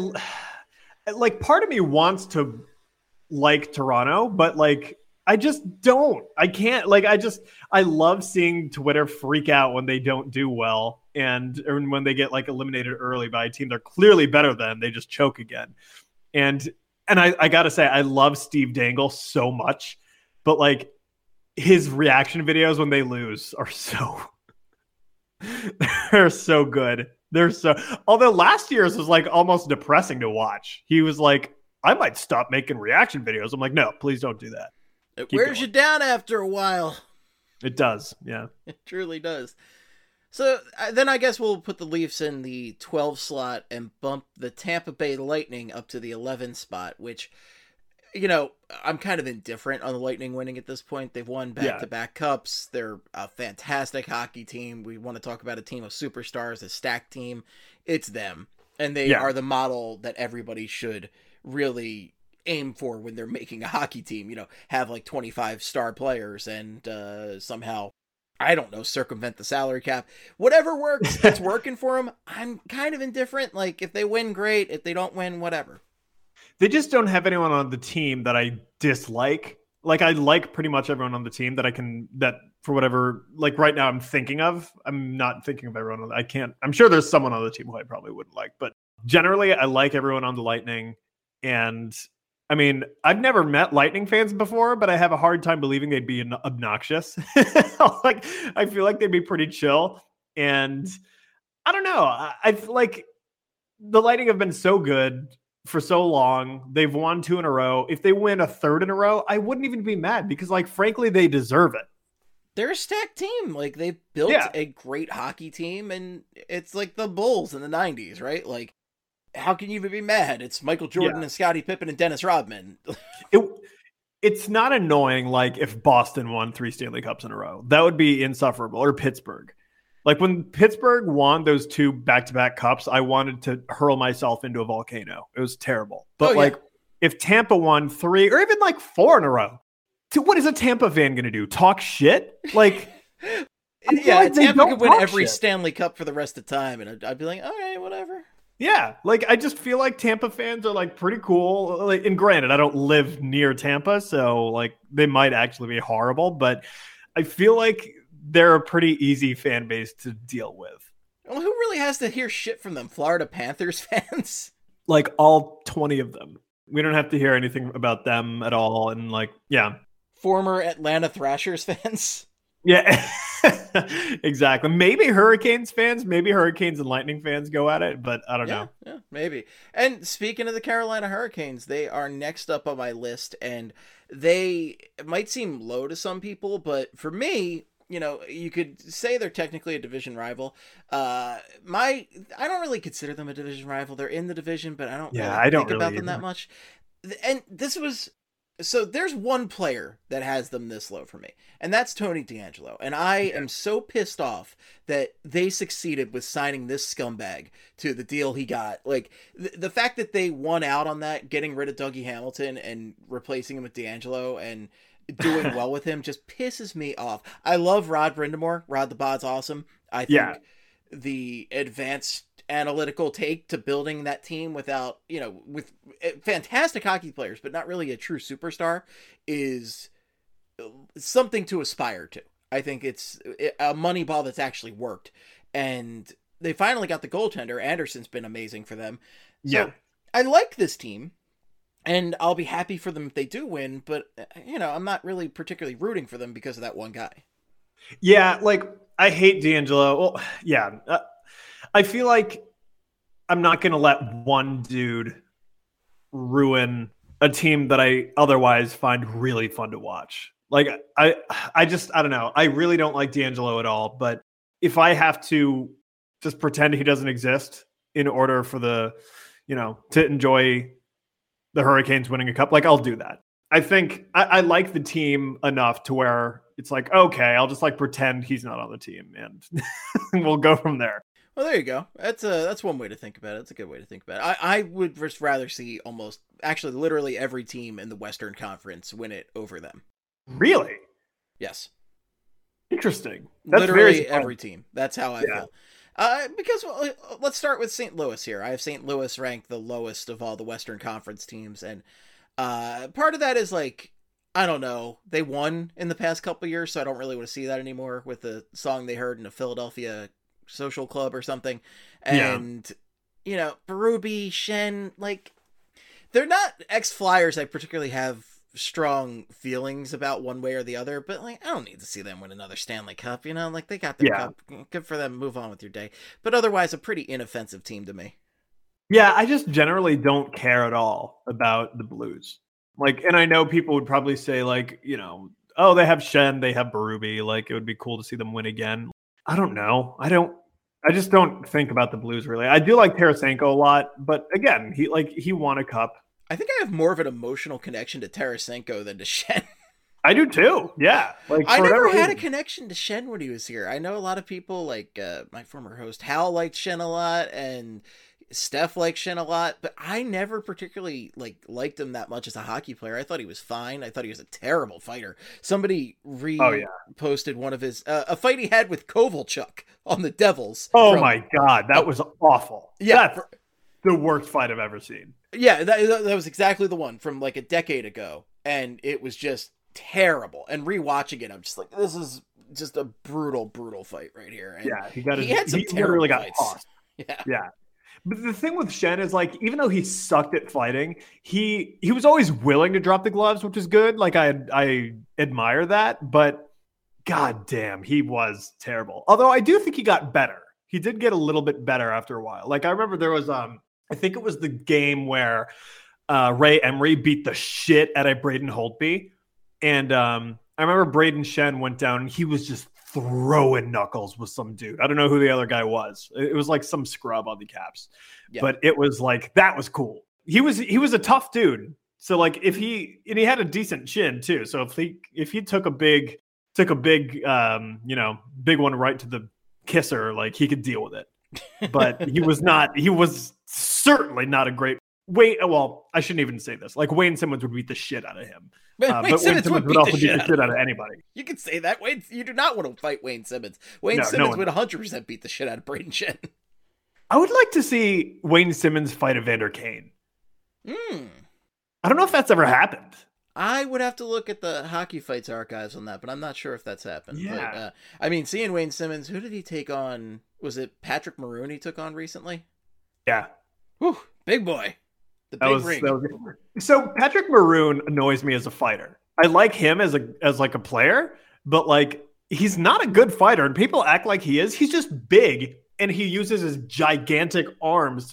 C: Like, part of me wants to like Toronto, but, like, I just don't. I can't. Like, I love seeing Twitter freak out when they don't do well or when they get like eliminated early by a team they're clearly better than. They just choke again. And I gotta say, I love Steve Dangle so much, but like his reaction videos when they lose are they're so good. Although last year's was like almost depressing to watch. He was like, I might stop making reaction videos. I'm like, no, please don't do that.
B: It wears you down after a while.
C: It does, yeah.
B: It truly does. So then I guess we'll put the Leafs in the 12 slot and bump the Tampa Bay Lightning up to the 11 spot, which, I'm kind of indifferent on the Lightning winning at this point. They've won back-to-back cups. They're a fantastic hockey team. We want to talk about a team of superstars, a stacked team. It's them. And they are the model that everybody should really aim for when they're making a hockey team, have like 25 star players and somehow, I don't know, circumvent the salary cap. Whatever works, it's working for them. I'm kind of indifferent. Like, if they win, great. If they don't win, whatever.
C: They just don't have anyone on the team that I dislike. Like, I like pretty much everyone on the team that for whatever, like right now I'm thinking of. I'm not thinking of everyone. I'm sure there's someone on the team who I probably wouldn't like, but generally I like everyone on the Lightning. And I mean, I've never met Lightning fans before, but I have a hard time believing they'd be obnoxious. Like, I feel like they'd be pretty chill. And I don't know. I feel like the Lightning have been so good for so long. They've won 2 in a row. If they win a 3rd in a row, I wouldn't even be mad because, like, frankly, they deserve it.
B: They're a stacked team. Like, they've built a great hockey team, and it's like the Bulls in the 90s, right? Like, how can you even be mad? It's Michael Jordan and Scottie Pippen and Dennis Rodman.
C: It's not annoying like if Boston won 3 Stanley Cups in a row. That would be insufferable. Or Pittsburgh. Like when Pittsburgh won those 2 back-to-back cups, I wanted to hurl myself into a volcano. It was terrible. But if Tampa won 3 or even like 4 in a row, what is a Tampa fan going to do? Talk shit? Like,
B: like Tampa could win every Stanley Cup for the rest of the time, and I'd be like, all right, whatever.
C: Yeah, like I just feel like Tampa fans are like pretty cool. Like, and granted, I don't live near Tampa, so like they might actually be horrible, but I feel like they're a pretty easy fan base to deal with.
B: Well, who really has to hear shit from them? Florida Panthers fans?
C: Like all 20 of them. We don't have to hear anything about them at all. And like, yeah.
B: Former Atlanta Thrashers fans?
C: Yeah, exactly. Maybe Hurricanes fans, maybe Hurricanes and Lightning fans go at it, but I don't know.
B: Yeah, maybe. And speaking of the Carolina Hurricanes, they are next up on my list, and it might seem low to some people, but for me, you know, you could say they're technically a division rival. I don't really consider them a division rival. They're in the division, but I don't think about them that much. And so there's one player that has them this low for me, and that's Tony DeAngelo. And I am so pissed off that they succeeded with signing this scumbag to the deal he got. Like, the fact that they won out on that, getting rid of Dougie Hamilton and replacing him with DeAngelo and doing well with him just pisses me off. I love Rod Brindamore. Rod the Bod's awesome. I think the advanced analytical take to building that team with fantastic hockey players, but not really a true superstar, is something to aspire to. I think it's a money ball that's actually worked, and they finally got the goaltender. Anderson's been amazing for them. So I like this team, and I'll be happy for them if they do win, but you know, I'm not really particularly rooting for them because of that one guy.
C: Yeah, like I hate DeAngelo. Well, yeah. I feel like I'm not going to let one dude ruin a team that I otherwise find really fun to watch. Like, I don't know. I really don't like DeAngelo at all. But if I have to just pretend he doesn't exist in order for to enjoy the Hurricanes winning a cup, like, I'll do that. I think I like the team enough to where it's like, okay, I'll just like pretend he's not on the team and we'll go from there.
B: Well, there you go. That's one way to think about it. It's a good way to think about it. I would just rather see literally every team in the Western Conference win it over them.
C: Really?
B: Yes.
C: Interesting. That's
B: literally every team. That's how I feel. Because let's start with St. Louis here. I have St. Louis ranked the lowest of all the Western Conference teams, and part of that is like, I don't know, they won in the past couple of years, so I don't really want to see that anymore with the song they heard in a Philadelphia social club or something. And you know, Berube, Schenn, like, they're not ex-Flyers I particularly have strong feelings about one way or the other, but like, I don't need to see them win another Stanley Cup, you know, like they got their cup, good for them, move on with your day. But otherwise a pretty inoffensive team to me.
C: Yeah, I just generally don't care at all about the Blues. Like, and I know people would probably say like, you know, oh, they have Schenn, they have Berube, like it would be cool to see them win again. I don't know. I just don't think about the Blues really. I do like Tarasenko a lot, but again, he won a cup.
B: I think I have more of an emotional connection to Tarasenko than to Schenn.
C: I do too. Yeah. Like,
B: I never had a connection to Schenn when he was here. I know a lot of people, like my former host Hal liked Schenn a lot, and Steph liked Schenn a lot, but I never particularly liked him that much as a hockey player. I thought he was fine. I thought he was a terrible fighter. Somebody posted one of his a fight he had with Kovalchuk on the Devils.
C: Oh my God, that was awful. Yeah, that's the worst fight I've ever seen.
B: Yeah, that was exactly the one from like a decade ago, and it was just terrible. And rewatching it, I'm just like, this is just a brutal fight right here. And
C: he had some terrible fights.
B: Yeah.
C: But the thing with Shen is like, even though he sucked at fighting, he was always willing to drop the gloves, which is good. Like I admire that, but god damn, he was terrible. Although I do think he got better. He did get a little bit better after a while. Like I remember there was I think it was the game where Ray Emery beat the shit out of Braden Holtby. And I remember Braden Shen went down and he was just throwing knuckles with some dude. I don't know who the other guy was. It was like some scrub on the Caps. Yeah. But it was like, that was cool. He was a tough dude. So like he had a decent chin too. So if he took a big big one right to the kisser, like he could deal with it. But he was certainly not a great well, I shouldn't even say this. Like Wayne Simmons would beat the shit out of him.
B: But Wayne Simmons would also beat the shit out
C: of anybody.
B: You can say that. You do not want to fight Wayne Simmons. Wayne Simmons would 100% beat the shit out of Braden Shen.
C: I would like to see Wayne Simmons fight Evander Kane. I don't know if that's ever happened.
B: I would have to look at the Hockey Fights archives on that, but I'm not sure if that's happened.
C: Yeah.
B: But, seeing Wayne Simmons, who did he take on? Was it Patrick Maroon he took on recently?
C: Yeah.
B: Whew, big boy. The big ring.
C: So Patrick Maroon annoys me as a fighter. I like him as a player, but like he's not a good fighter, and people act like he is. He's just big, and he uses his gigantic arms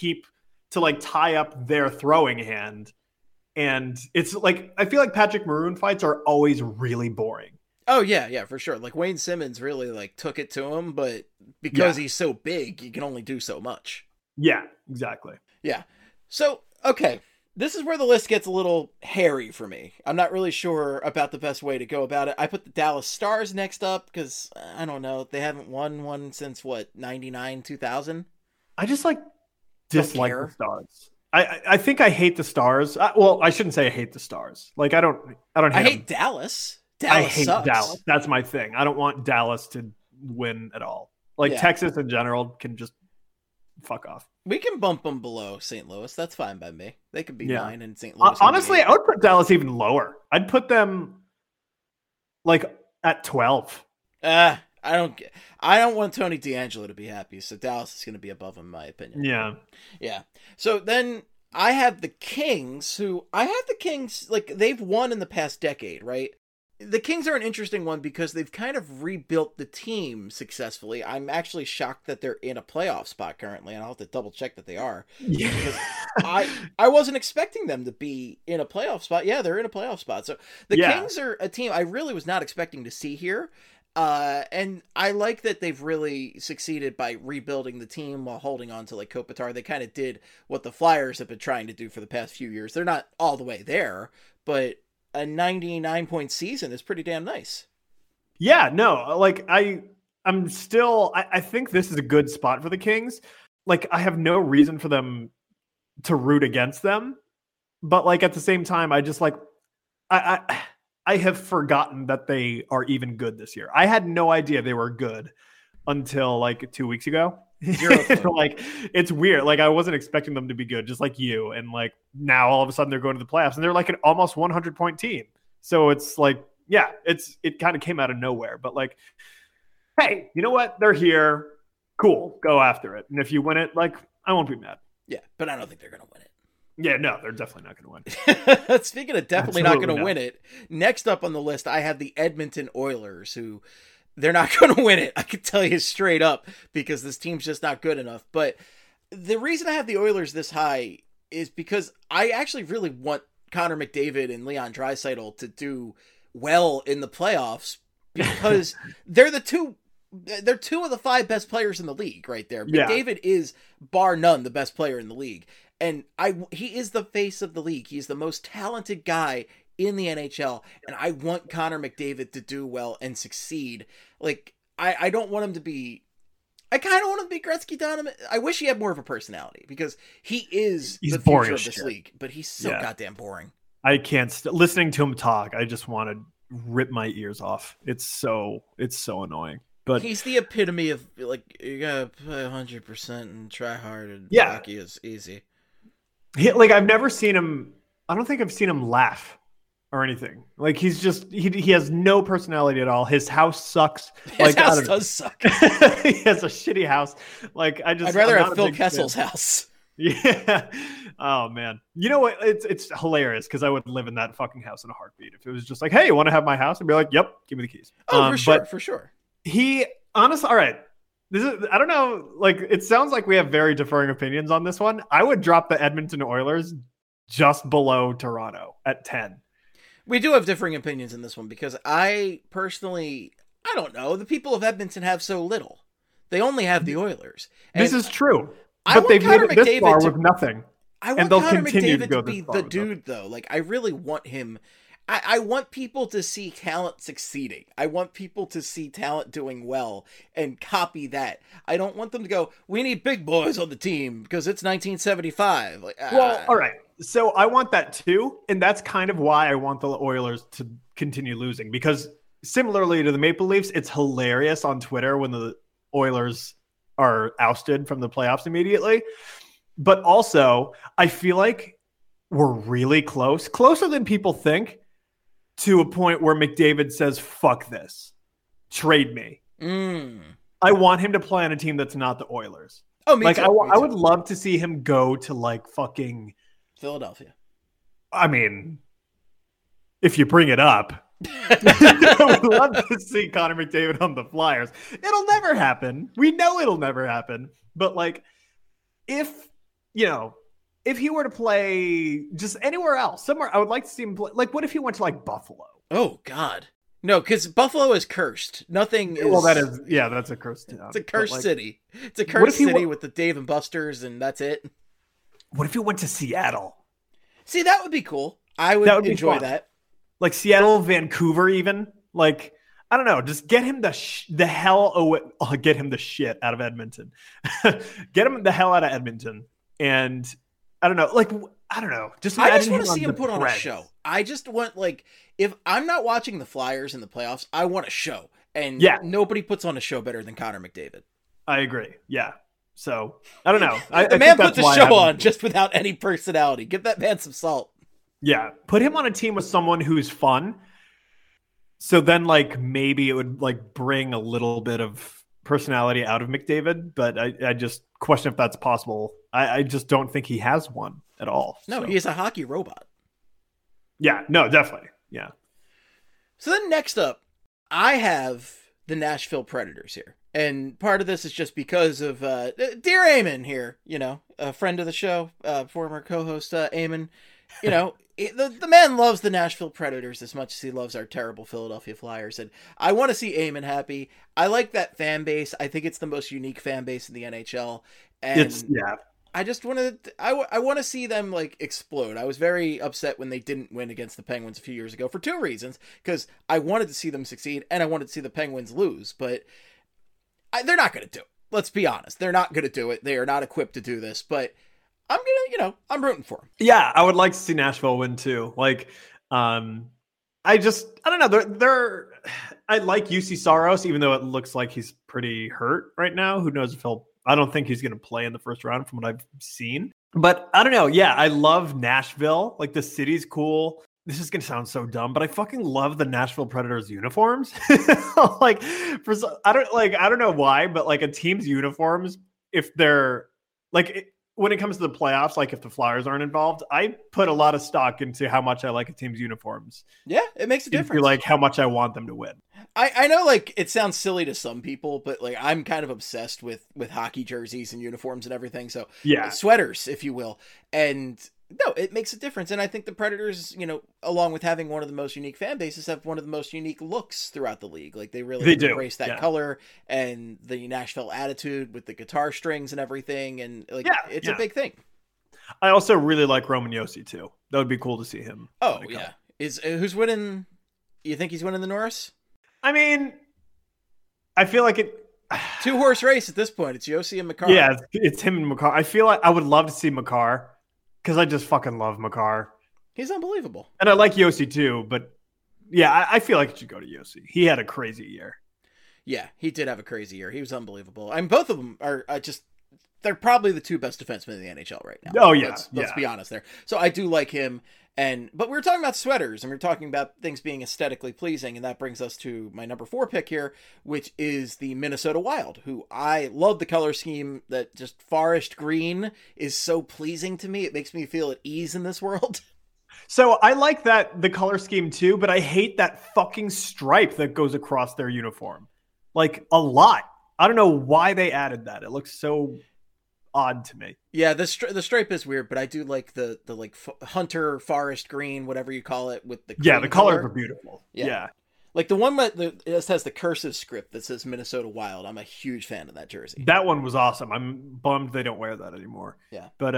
C: to like tie up their throwing hand. And it's like I feel like Patrick Maroon fights are always really boring.
B: Oh yeah, for sure. Like Wayne Simmons really like took it to him, but because he's so big, you can only do so much.
C: Yeah, exactly.
B: Yeah. So, okay, this is where the list gets a little hairy for me. I'm not really sure about the best way to go about it. I put the Dallas Stars next up because, I don't know, they haven't won one since, 99, 2000?
C: I just, dislike the Stars. I think I hate the Stars. Well, I shouldn't say I hate the Stars. Like, I hate
B: Dallas.
C: I hate Dallas. That's my thing. I don't want Dallas to win at all. Texas in general can just fuck off.
B: We can bump them below St. Louis. That's fine by me. They could be 9 and St. Louis.
C: Honestly, I would put Dallas even lower. I'd put them at 12.
B: I don't want Tony DeAngelo to be happy, so Dallas is going to be above him, in my opinion. Yeah. So then I have the Kings, they've won in the past decade, right? The Kings are an interesting one because they've kind of rebuilt the team successfully. I'm actually shocked that they're in a playoff spot currently, and I'll have to double check that they are.
C: Yeah.
B: Because I wasn't expecting them to be in a playoff spot. Yeah, they're in a playoff spot. So the Kings are a team I really was not expecting to see here. And I like that they've really succeeded by rebuilding the team while holding on to Kopitar. They kind of did what the Flyers have been trying to do for the past few years. They're not all the way there, but a 99-point season is pretty damn nice.
C: Yeah, no, I think this is a good spot for the Kings. I have no reason for them to root against them, but at the same time, I just I have forgotten that they are even good this year. I had no idea they were good until 2 weeks ago. It's weird. I wasn't expecting them to be good, just like you. And now all of a sudden they're going to the playoffs and they're an almost 100-point team. So it's it kind of came out of nowhere. But hey, you know what? They're here. Cool. Go after it. And if you win it, I won't be mad.
B: Yeah, but I don't think they're going to win it.
C: Yeah, no, they're definitely not going to
B: win. Speaking of definitely not going to win it, next up on the list, I have the Edmonton Oilers, who they're not going to win it. I can tell you straight up because this team's just not good enough. But the reason I have the Oilers this high is because I actually really want Connor McDavid and Leon Draisaitl to do well in the playoffs because they're two of the 5 best players in the league right there.
C: Yeah.
B: McDavid is bar none the best player in the league. And he is the face of the league. He's the most talented guy in the NHL, and I want Connor McDavid to do well and succeed. I don't want him to be... I kind of want him to be Gretzky Donovan. I wish he had more of a personality because he's the future of this league, but he's so goddamn boring.
C: I can't... listening to him talk, I just want to rip my ears off. It's so annoying. But
B: he's the epitome of, you gotta play 100% and try hard, and hockey is easy.
C: I've never seen him... I don't think I've seen him laugh or anything. Like he's just he has no personality at all. His house sucks.
B: His house does suck.
C: He has a shitty house. Like I'd
B: rather have Phil Kessel's house.
C: Yeah. Oh man. You know what? It's hilarious because I would live in that fucking house in a heartbeat. If it was just like, hey, you want to have my house? I'd be like, yep, give me the keys.
B: Oh, for sure.
C: He honestly, all right. This is, I don't know. Like, it sounds like we have very differing opinions on this one. I would drop the Edmonton Oilers just below Toronto at 10.
B: We do have differing opinions in this one because I personally, I don't know. The people of Edmonton have so little. They only have the Oilers.
C: This is true. But they've made it this far with nothing.
B: I want Connor McDavid to be the dude, though. Like, I really want him. I want people to see talent succeeding. I want people to see talent doing well and copy that. I don't want them to go, we need big boys on the team because it's 1975. Like,
C: well, all right. So I want that too. And that's kind of why I want the Oilers to continue losing. Because similarly to the Maple Leafs, it's hilarious on Twitter when the Oilers are ousted from the playoffs immediately. But also, I feel like we're really close, closer than people think, to a point where McDavid says, fuck this. Trade me. I want him to play on a team that's not the Oilers.
B: Oh, me
C: like,
B: too.
C: I would love to see him go to, like, fucking...
B: Philadelphia.
C: I mean, if you bring it up... I would love to see Connor McDavid on the Flyers. It'll never happen. We know it'll never happen. But, like, if he were to play just anywhere else, somewhere, I would like to see him play. Like, what if he went to, like, Buffalo?
B: Oh, God. No, because Buffalo is cursed. Nothing is...
C: Well, that's a cursed town.
B: It's a cursed city. It's a cursed city with the Dave and Buster's, and that's it.
C: What if he went to Seattle?
B: See, that would be cool. I would enjoy that.
C: Like Seattle, Vancouver, even. Like, I don't know. Just get him the hell away. Oh, get him the shit out of Edmonton. Get him the hell out of Edmonton. And I don't know. Like, I don't know.
B: I just want to see him put on a show. I just want, like, if I'm not watching the Flyers in the playoffs, I want a show. And nobody puts on a show better than Connor McDavid.
C: I agree. Yeah. So, I don't know.
B: The man put the show on just without any personality. Give that man some salt.
C: Yeah. Put him on a team with someone who's fun. So then, like, maybe it would, like, bring a little bit of personality out of McDavid. But I just question if that's possible. I just don't think he has one at all.
B: No, he is a hockey robot.
C: Yeah. No, definitely. Yeah.
B: So then next up, I have the Nashville Predators here. And part of this is just because of dear Eamon here, a friend of the show, former co-host Eamon. The man loves the Nashville Predators as much as he loves our terrible Philadelphia Flyers. And I want to see Eamon happy. I like that fan base. I think it's the most unique fan base in the NHL. And I just want to, I want to see them, like, explode. I was very upset when they didn't win against the Penguins a few years ago for two reasons. Because I wanted to see them succeed and I wanted to see the Penguins lose. But they're not going to do it. Let's be honest. They're not going to do it. They are not equipped to do this. But I'm going to, I'm rooting for them.
C: Yeah, I would like to see Nashville win too. Like, I don't know. I like UC Saros, even though it looks like he's pretty hurt right now. Who knows if I don't think he's going to play in the first round from what I've seen. But I don't know. Yeah, I love Nashville. Like, the city's cool. This is going to sound so dumb, but I fucking love the Nashville Predators uniforms. Like, I don't know why, but, like, a team's uniforms, if they're like, when it comes to the playoffs, like, if the Flyers aren't involved, I put a lot of stock into how much I like a team's uniforms.
B: Yeah, it makes a difference.
C: Into, like, how much I want them to win.
B: I know, like, it sounds silly to some people, but, like, I'm kind of obsessed with hockey jerseys and uniforms and everything. So
C: yeah,
B: sweaters, if you will. And no, it makes a difference. And I think the Predators, along with having one of the most unique fan bases, have one of the most unique looks throughout the league. Like, they really embrace that color and the Nashville attitude with the guitar strings and everything. And, like, it's a big thing.
C: I also really like Roman Josi too. That would be cool to see him.
B: Oh, yeah. Who's winning? You think he's winning the Norris?
C: I mean, I feel like it...
B: 2-horse race at this point. It's Josi and Makar.
C: Yeah, it's him and Makar. I feel like I would love to see Makar because I just fucking love Makar.
B: He's unbelievable.
C: And I like Josi too, but yeah, I feel like it should go to Josi. He had a crazy year.
B: Yeah, he did have a crazy year. He was unbelievable. I mean, both of them are just... They're probably the two best defensemen in the NHL right now.
C: Oh, yeah.
B: Let's be honest there. So I do like him. But we were talking about sweaters, and we were talking about things being aesthetically pleasing, and that brings us to my number 4 pick here, which is the Minnesota Wild, who I love the color scheme. That just forest green is so pleasing to me. It makes me feel at ease in this world.
C: So I like the color scheme too, but I hate that fucking stripe that goes across their uniform. Like, a lot. I don't know why they added that. It looks so odd to me.
B: Yeah, the stripe is weird, but I do like the hunter forest green, whatever you call it, with the
C: the colors are beautiful. Yeah.
B: Like the one that it has the cursive script that says Minnesota Wild. I'm a huge fan of that jersey.
C: That one was awesome. I'm bummed they don't wear that anymore.
B: Yeah.
C: But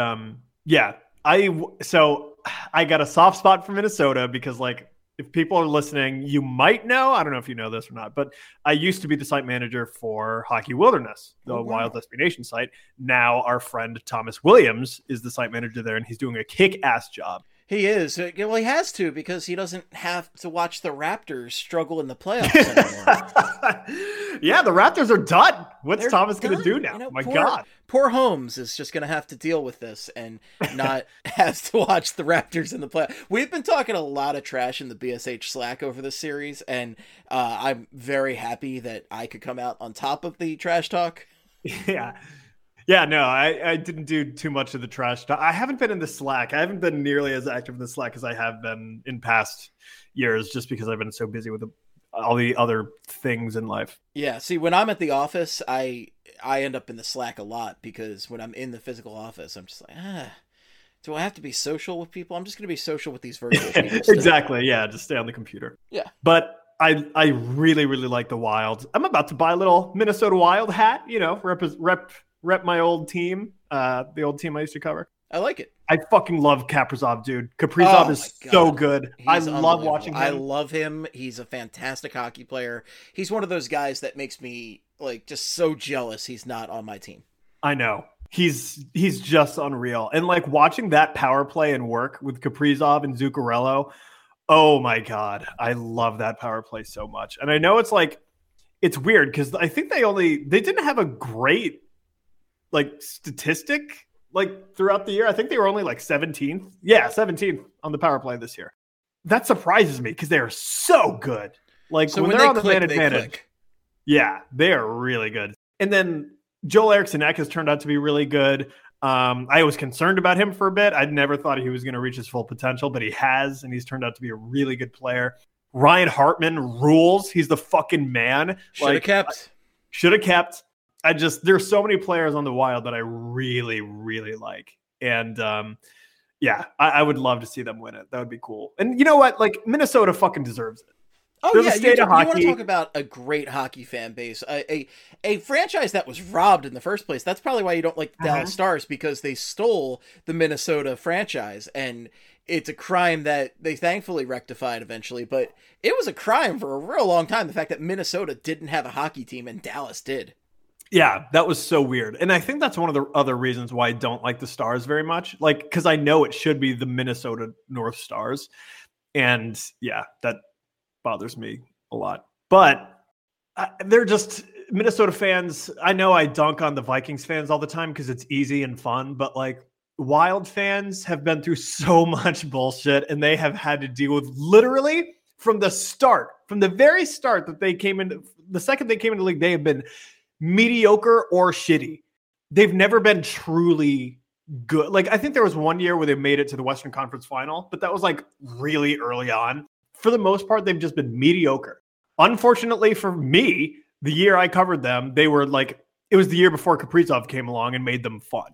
C: I got a soft spot for Minnesota because, like, if people are listening, you might know, I don't know if you know this or not, but I used to be the site manager for Hockey Wilderness, the Wild SB Nation site. Now our friend Thomas Williams is the site manager there, and he's doing a kick-ass job.
B: He is. Well, he has to, because he doesn't have to watch the Raptors struggle in the playoffs anymore.
C: Yeah, the Raptors are done. What's Thomas going to do now? God.
B: Poor Holmes is just going to have to deal with this and not have to watch the Raptors in the playoffs. We've been talking a lot of trash in the BSH Slack over this series, and I'm very happy that I could come out on top of the trash talk.
C: Yeah. Yeah, no, I didn't do too much of the trash talk. I haven't been in the Slack. I haven't been nearly as active in the Slack as I have been in past years, just because I've been so busy with all the other things in life.
B: Yeah, see, when I'm at the office, I end up in the Slack a lot, because when I'm in the physical office, I'm just like, do I have to be social with people? I'm just going to be social with these virtual people.
C: Exactly, yeah, just stay on the computer.
B: Yeah.
C: But I really, really like the Wild. I'm about to buy a little Minnesota Wild hat, rep my old team, the old team I used to cover.
B: I like it.
C: I fucking love Kaprizov, dude. Kaprizov is so good. I love watching him.
B: I love him. He's a fantastic hockey player. He's one of those guys that makes me just so jealous he's not on my team.
C: I know. He's just unreal. And watching that power play and work with Kaprizov and Zuccarello, oh my God. I love that power play so much. And I know it's weird because I think they didn't have a great statistic throughout the year. I think they were only 17th. Yeah, 17th on the power play this year. That surprises me because they are so good. So when they're on the man advantage. Yeah, they are really good. And then Joel Eriksson Ek has turned out to be really good. I was concerned about him for a bit. I never thought he was going to reach his full potential, but he has, and he's turned out to be a really good player. Ryan Hartman rules. He's the fucking man.
B: Should have kept.
C: There's so many players on the Wild that I really, really like. And I would love to see them win it. That would be cool. And you know what? Minnesota fucking deserves it.
B: Oh, you want to talk about a great hockey fan base, a franchise that was robbed in the first place. That's probably why you don't like the Dallas Stars, because they stole the Minnesota franchise, and it's a crime that they thankfully rectified eventually, but it was a crime for a real long time, the fact that Minnesota didn't have a hockey team and Dallas did.
C: Yeah, that was so weird. And I think that's one of the other reasons why I don't like the Stars very much. Because I know it should be the Minnesota North Stars. And yeah, that bothers me a lot. But they're just Minnesota fans. I know I dunk on the Vikings fans all the time because it's easy and fun. But Wild fans have been through so much bullshit, and they have had to deal with literally from the very start that they came into the second they came into the league, they have been mediocre or shitty. They've never been truly good. I think there was one year where they made it to the Western Conference Final, but that was really early on. For the most part, they've just been mediocre. Unfortunately for me, the year I covered them, they were it was the year before Kaprizov came along and made them fun.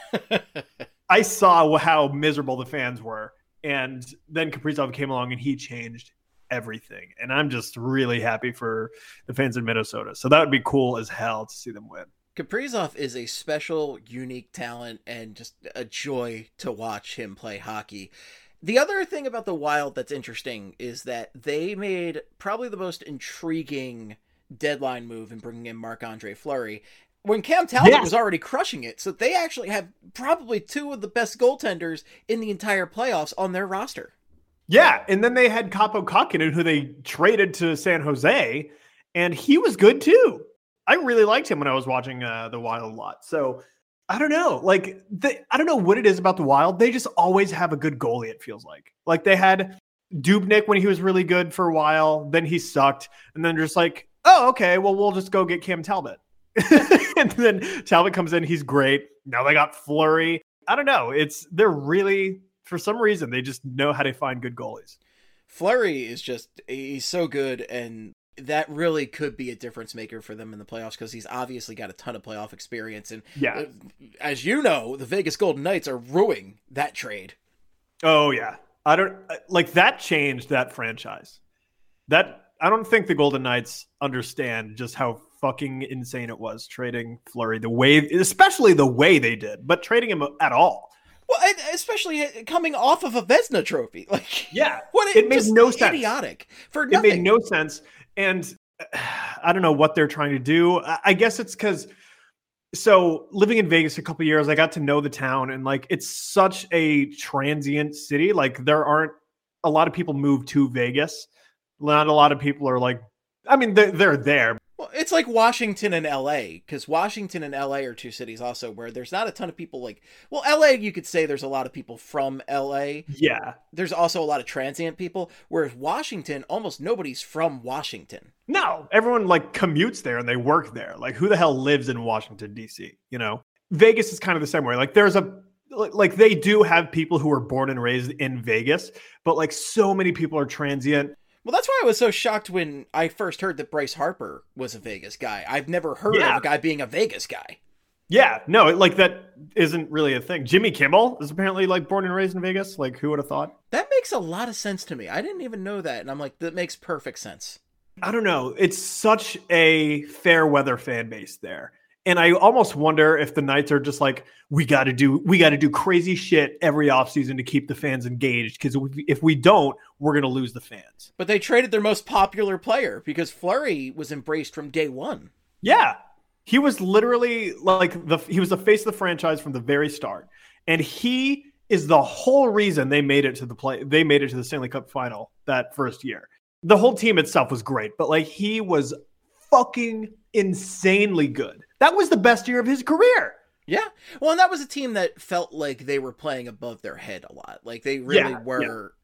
C: I saw how miserable the fans were, and then Kaprizov came along and he changed everything. And I'm just really happy for the fans in Minnesota. So that would be cool as hell to see them win.
B: Kaprizov is a special, unique talent and just a joy to watch him play hockey. The other thing about the Wild that's interesting is that they made probably the most intriguing deadline move in bringing in Marc-Andre Fleury when Cam Talbot was already crushing it. So they actually have probably two of the best goaltenders in the entire playoffs on their roster.
C: Yeah, and then they had Kaapo Kahkonen, who they traded to San Jose, and he was good too. I really liked him when I was watching the Wild a lot. So I don't know. Like, I don't know what it is about the Wild. They just always have a good goalie, it feels like. Like, they had Dubnyk when he was really good for a while. Then he sucked. And then just like, oh, okay, well, we'll just go get Cam Talbot. And then Talbot comes in. He's great. Now they got Fleury. I don't know. They're really, for some reason, they just know how to find good goalies.
B: Fleury is he's so good, and that really could be a difference maker for them in the playoffs because he's obviously got a ton of playoff experience. And as you know, the Vegas Golden Knights are ruining that trade.
C: Oh, yeah. I don't like that changed that franchise. I don't think the Golden Knights understand just how fucking insane it was trading Fleury especially the way they did, but trading him at all.
B: Well, especially coming off of a Vezina trophy. Like,
C: yeah, it made no sense.
B: Idiotic for nothing.
C: It made no sense. And I don't know what they're trying to do. I guess it's because, so living in Vegas a couple of years, I got to know the town, and like, it's such a transient city. Like, there aren't a lot of people move to Vegas. Not a lot of people are like, I mean, they're there.
B: Well, it's like Washington and LA, because Washington and LA are two cities also where there's not a ton of people like, well, LA, you could say there's a lot of people from LA.
C: Yeah.
B: There's also a lot of transient people, whereas Washington, almost nobody's from Washington.
C: No, everyone like commutes there and they work there. Like, who the hell lives in Washington, D.C.? You know, Vegas is kind of the same way. Like, like they do have people who are born and raised in Vegas, but like so many people are transient.
B: Well, that's why I was so shocked when I first heard that Bryce Harper was a Vegas guy. I've never heard of a guy being a Vegas guy.
C: Yeah, no, like that isn't really a thing. Jimmy Kimmel is apparently like born and raised in Vegas. Like, who would have thought?
B: That makes a lot of sense to me. I didn't even know that. And I'm like, that makes perfect sense.
C: I don't know. It's such a fair weather fan base there. And I almost wonder if the Knights are just like, we got to do crazy shit every offseason to keep the fans engaged. Because if we don't, we're going to lose the fans.
B: But they traded their most popular player because Fleury was embraced from day one.
C: Yeah. He was literally like he was the face of the franchise from the very start. And he is the whole reason they made it to the Stanley Cup final that first year. The whole team itself was great, but like he was fucking insanely good. That was the best year of his career.
B: Yeah. Well, and that was a team that felt like they were playing above their head a lot. Like they really were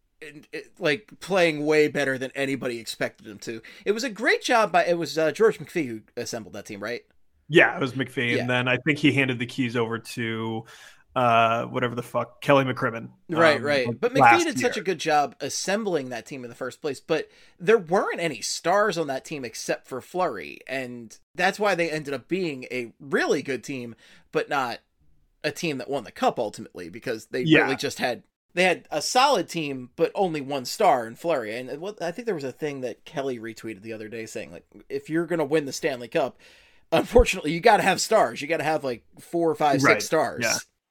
B: like playing way better than anybody expected them to. It was a great job it was George McPhee who assembled that team, right?
C: Yeah, it was McPhee. Yeah. And then I think he handed the keys over to whatever the fuck, Kelly McCrimmon.
B: Right. But McPhee did such a good job assembling that team in the first place, but there weren't any stars on that team except for Fleury, and that's why they ended up being a really good team, but not a team that won the cup ultimately, because they really just had a solid team, but only one star in Fleury. And I think there was a thing that Kelly retweeted the other day saying, like, if you're going to win the Stanley Cup, unfortunately, you got to have stars. You got to have like 4 or 5, 6 stars.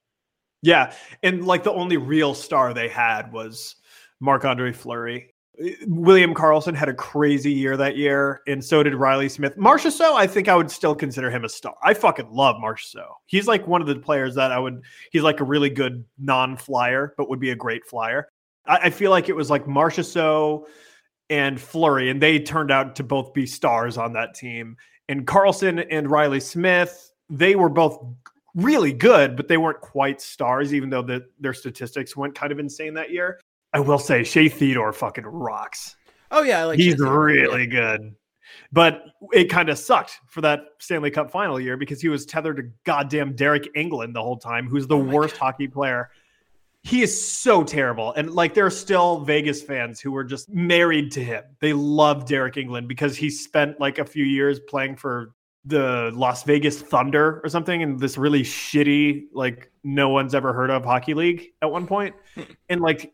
C: Yeah, and like the only real star they had was Marc-Andre Fleury. William Karlsson had a crazy year that year, and so did Riley Smith. Marchessault, I think I would still consider him a star. I fucking love Marchessault. He's like one of the players that he's like a really good non-flyer, but would be a great flyer. I feel like it was like Marchessault and Fleury, and they turned out to both be stars on that team. And Karlsson and Riley Smith, they were both really good, but they weren't quite stars, even though their statistics went kind of insane that year. I will say Shea Theodore fucking rocks.
B: Oh yeah,
C: he's really good. But it kind of sucked for that Stanley Cup final year because he was tethered to goddamn Derek England the whole time, who's the worst hockey player. He is so terrible. And like there are still Vegas fans who were just married to him. They love Derek England because he spent like a few years playing for the Las Vegas Thunder or something in this really shitty, like no one's ever heard of hockey league at one point. And like,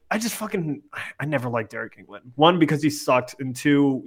C: I never liked Derek England. 1, because he sucked. And 2,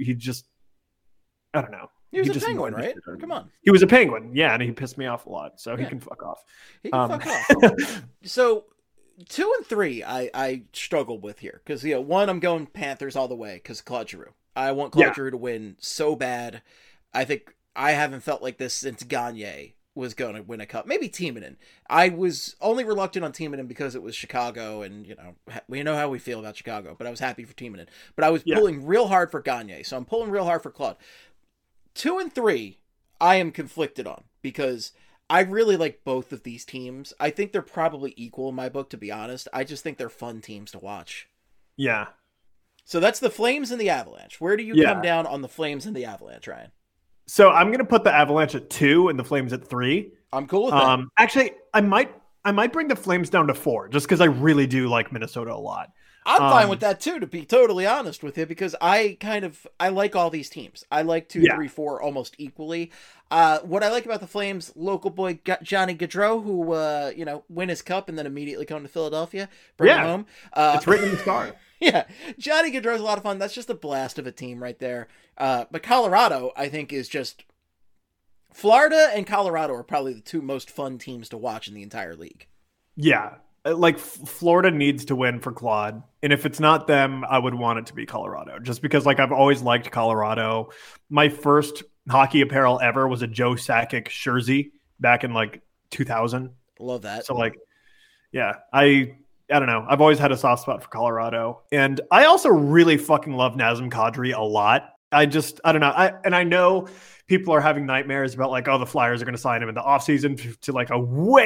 C: I don't know.
B: He was a Penguin, right? Come on.
C: He was a Penguin. Yeah. And he pissed me off a lot. So he can fuck off.
B: He can fuck off. So 2 and 3, I struggled with here. Cause 1, I'm going Panthers all the way. Cause Claude Giroux. I want Claude Giroux to win so bad. I haven't felt like this since Gagne was going to win a cup. Maybe Timonen. I was only reluctant on Timonen because it was Chicago, and we know how we feel about Chicago. But I was happy for Timonen. But I was pulling real hard for Gagne, so I'm pulling real hard for Claude. 2 and 3, I am conflicted on because I really like both of these teams. I think they're probably equal in my book, to be honest. I just think they're fun teams to watch.
C: Yeah.
B: So that's the Flames and the Avalanche. Where do you come down on the Flames and the Avalanche, Ryan?
C: So I'm going to put the Avalanche at 2 and the Flames at 3.
B: I'm cool with that.
C: Actually, I might bring the Flames down to 4 just because I really do like Minnesota a lot.
B: I'm fine with that too, to be totally honest with you, because I like all these teams. I like 2, 3, 4 almost equally. What I like about the Flames, local boy Johnny Gaudreau, who win his cup and then immediately come to Philadelphia, bring him home.
C: It's written in the stars.
B: Yeah, Johnny Gaudreau's a lot of fun. That's just a blast of a team right there. But Colorado, I think, is just... Florida and Colorado are probably the 2 most fun teams to watch in the entire league.
C: Yeah, like Florida needs to win for Claude. And if it's not them, I would want it to be Colorado. Just because I've always liked Colorado. My first hockey apparel ever was a Joe Sakic jersey back in 2000.
B: Love that.
C: So yeah, I don't know. I've always had a soft spot for Colorado. And I also really fucking love Nazem Kadri a lot. I don't know. I know people are having nightmares about the Flyers are going to sign him in the offseason to a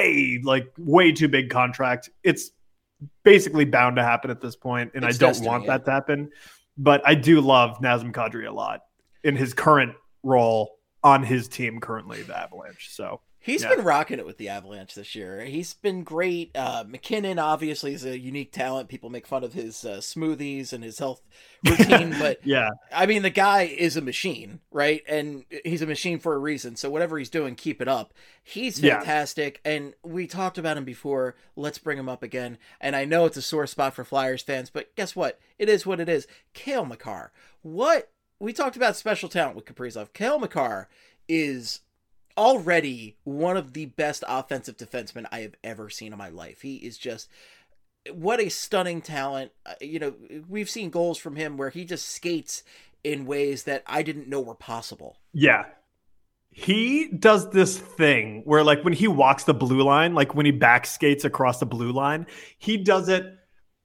C: way too big contract. It's basically bound to happen at this point, and I don't want that to happen. But I do love Nazem Kadri a lot in his current role on his team currently, the Avalanche. So
B: he's been rocking it with the Avalanche this year. He's been great. McKinnon obviously is a unique talent. People make fun of his smoothies and his health routine, but I mean, the guy is a machine, right? And he's a machine for a reason. So whatever he's doing, keep it up. He's fantastic. And we talked about him before. Let's bring him up again. And I know it's a sore spot for Flyers fans, but guess what? It is what it is. Cale Makar. We talked about special talent with Kaprizov. Cale Makar is already one of the best offensive defensemen I have ever seen in my life. He is just, what a stunning talent. We've seen goals from him where he just skates in ways that I didn't know were possible.
C: Yeah. He does this thing where when he walks the blue line, when he back skates across the blue line, he does it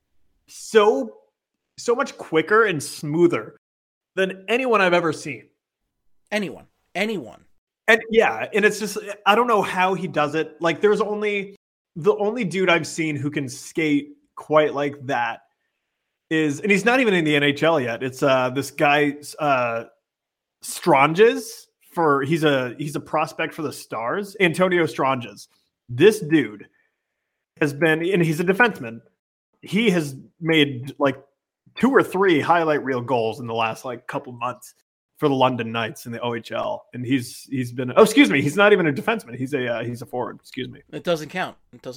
C: so much quicker and smoother than anyone I've ever seen.
B: Anyone.
C: And and it's just, I don't know how he does it. There's the only dude I've seen who can skate quite like that is, and he's not even in the NHL yet. It's this guy, Stranges, he's a prospect for the Stars, Antonio Stranges. This dude has been, and he's a defenseman. He has made 2 or 3 highlight reel goals in the last couple months for the London Knights in the OHL. And he's been, he's not even a defenseman. He's a forward. Excuse me.
B: It doesn't count.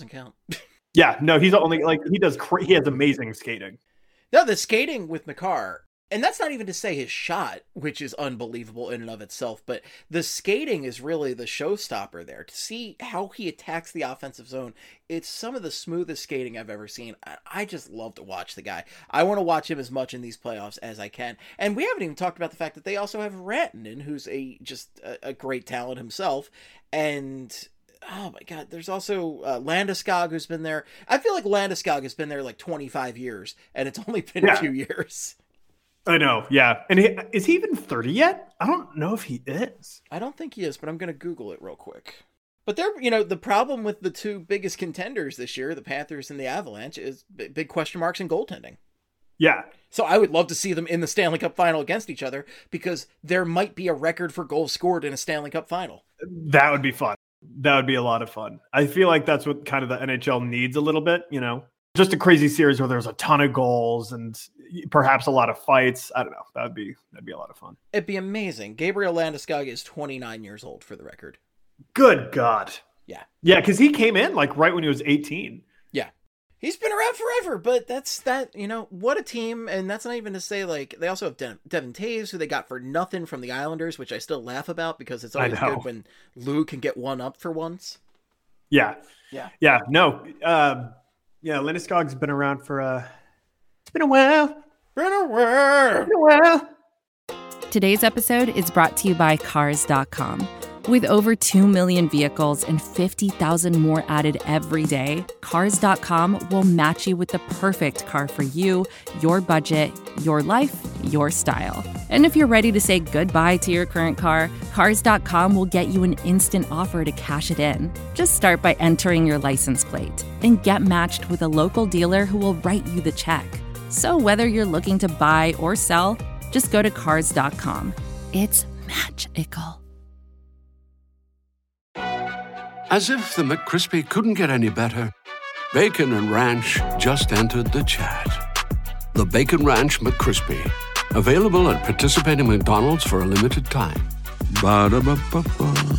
C: Yeah, no, he's only he has amazing skating.
B: No, the skating with Makar, and that's not even to say his shot, which is unbelievable in and of itself, but the skating is really the showstopper there. To see how he attacks the offensive zone, it's some of the smoothest skating I've ever seen. I just love to watch the guy. I want to watch him as much in these playoffs as I can. And we haven't even talked about the fact that they also have Rantanen, who's a great talent himself. And oh my God, there's also Landeskog, who's been there. I feel like Landeskog has been there 25 years, and it's only been a few years.
C: I know, yeah. And is he even 30 yet? I don't know if he is.
B: I don't think he is, but I'm going to Google it real quick. But they're, the problem with the 2 biggest contenders this year, the Panthers and the Avalanche, is big question marks in goaltending.
C: Yeah.
B: So I would love to see them in the Stanley Cup final against each other, because there might be a record for goals scored in a Stanley Cup final.
C: That would be fun. That would be a lot of fun. I feel like that's what kind of the NHL needs a little bit, Just a crazy series where there's a ton of goals and perhaps a lot of fights. I don't know. That'd be a lot of fun.
B: It'd be amazing. Gabriel Landeskog is 29 years old, for the record.
C: Good God.
B: Yeah.
C: Yeah, because he came in right when he was 18.
B: Yeah. He's been around forever, but what a team. And that's not even to say, they also have Devin Taves, who they got for nothing from the Islanders, which I still laugh about because it's always good when Lou can get one up for once.
C: Yeah. Yeah. Yeah. No. Landeskog's been around for it's been a while.
B: Been a while.
D: Today's episode is brought to you by Cars.com. With over 2 million vehicles and 50,000 more added every day, Cars.com will match you with the perfect car for you, your budget, your life, your style. And if you're ready to say goodbye to your current car, Cars.com will get you an instant offer to cash it in. Just start by entering your license plate and get matched with a local dealer who will write you the check. So whether you're looking to buy or sell, just go to Cars.com. It's magical.
E: As if the McCrispy couldn't get any better, Bacon and Ranch just entered the chat. The Bacon Ranch McCrispy, available at participating McDonald's for a limited time. Ba-da-ba-ba-ba.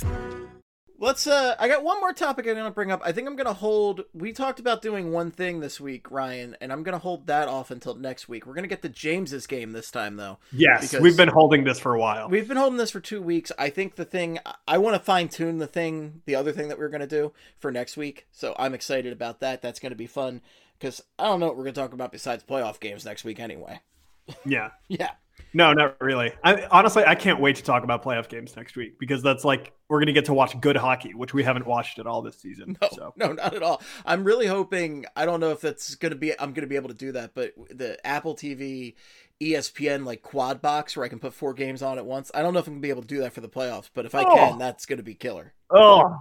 B: I got one more topic I'm going to bring up. I think I'm going to hold, we talked about doing one thing this week, Ryan, and I'm going to hold that off until next week. We're going to get to James's game this time, though.
C: Yes, we've been holding this for a while.
B: We've been holding this for 2 weeks. I think I want to fine tune the other thing that we're going to do for next week. So I'm excited about that. That's going to be fun because I don't know what we're going to talk about besides playoff games next week anyway.
C: Yeah.
B: Yeah.
C: No, not really. Honestly, I can't wait to talk about playoff games next week because that's like we're going to get to watch good hockey, which we haven't watched at all this season.
B: No, not at all. I'm really hoping. I don't know if that's going to be. I'm going to be able to do that, but the Apple TV, ESPN like quad box where I can put 4 games on at once. I don't know if I'm going to be able to do that for the playoffs, but if I can, that's going to be killer.
C: Oh,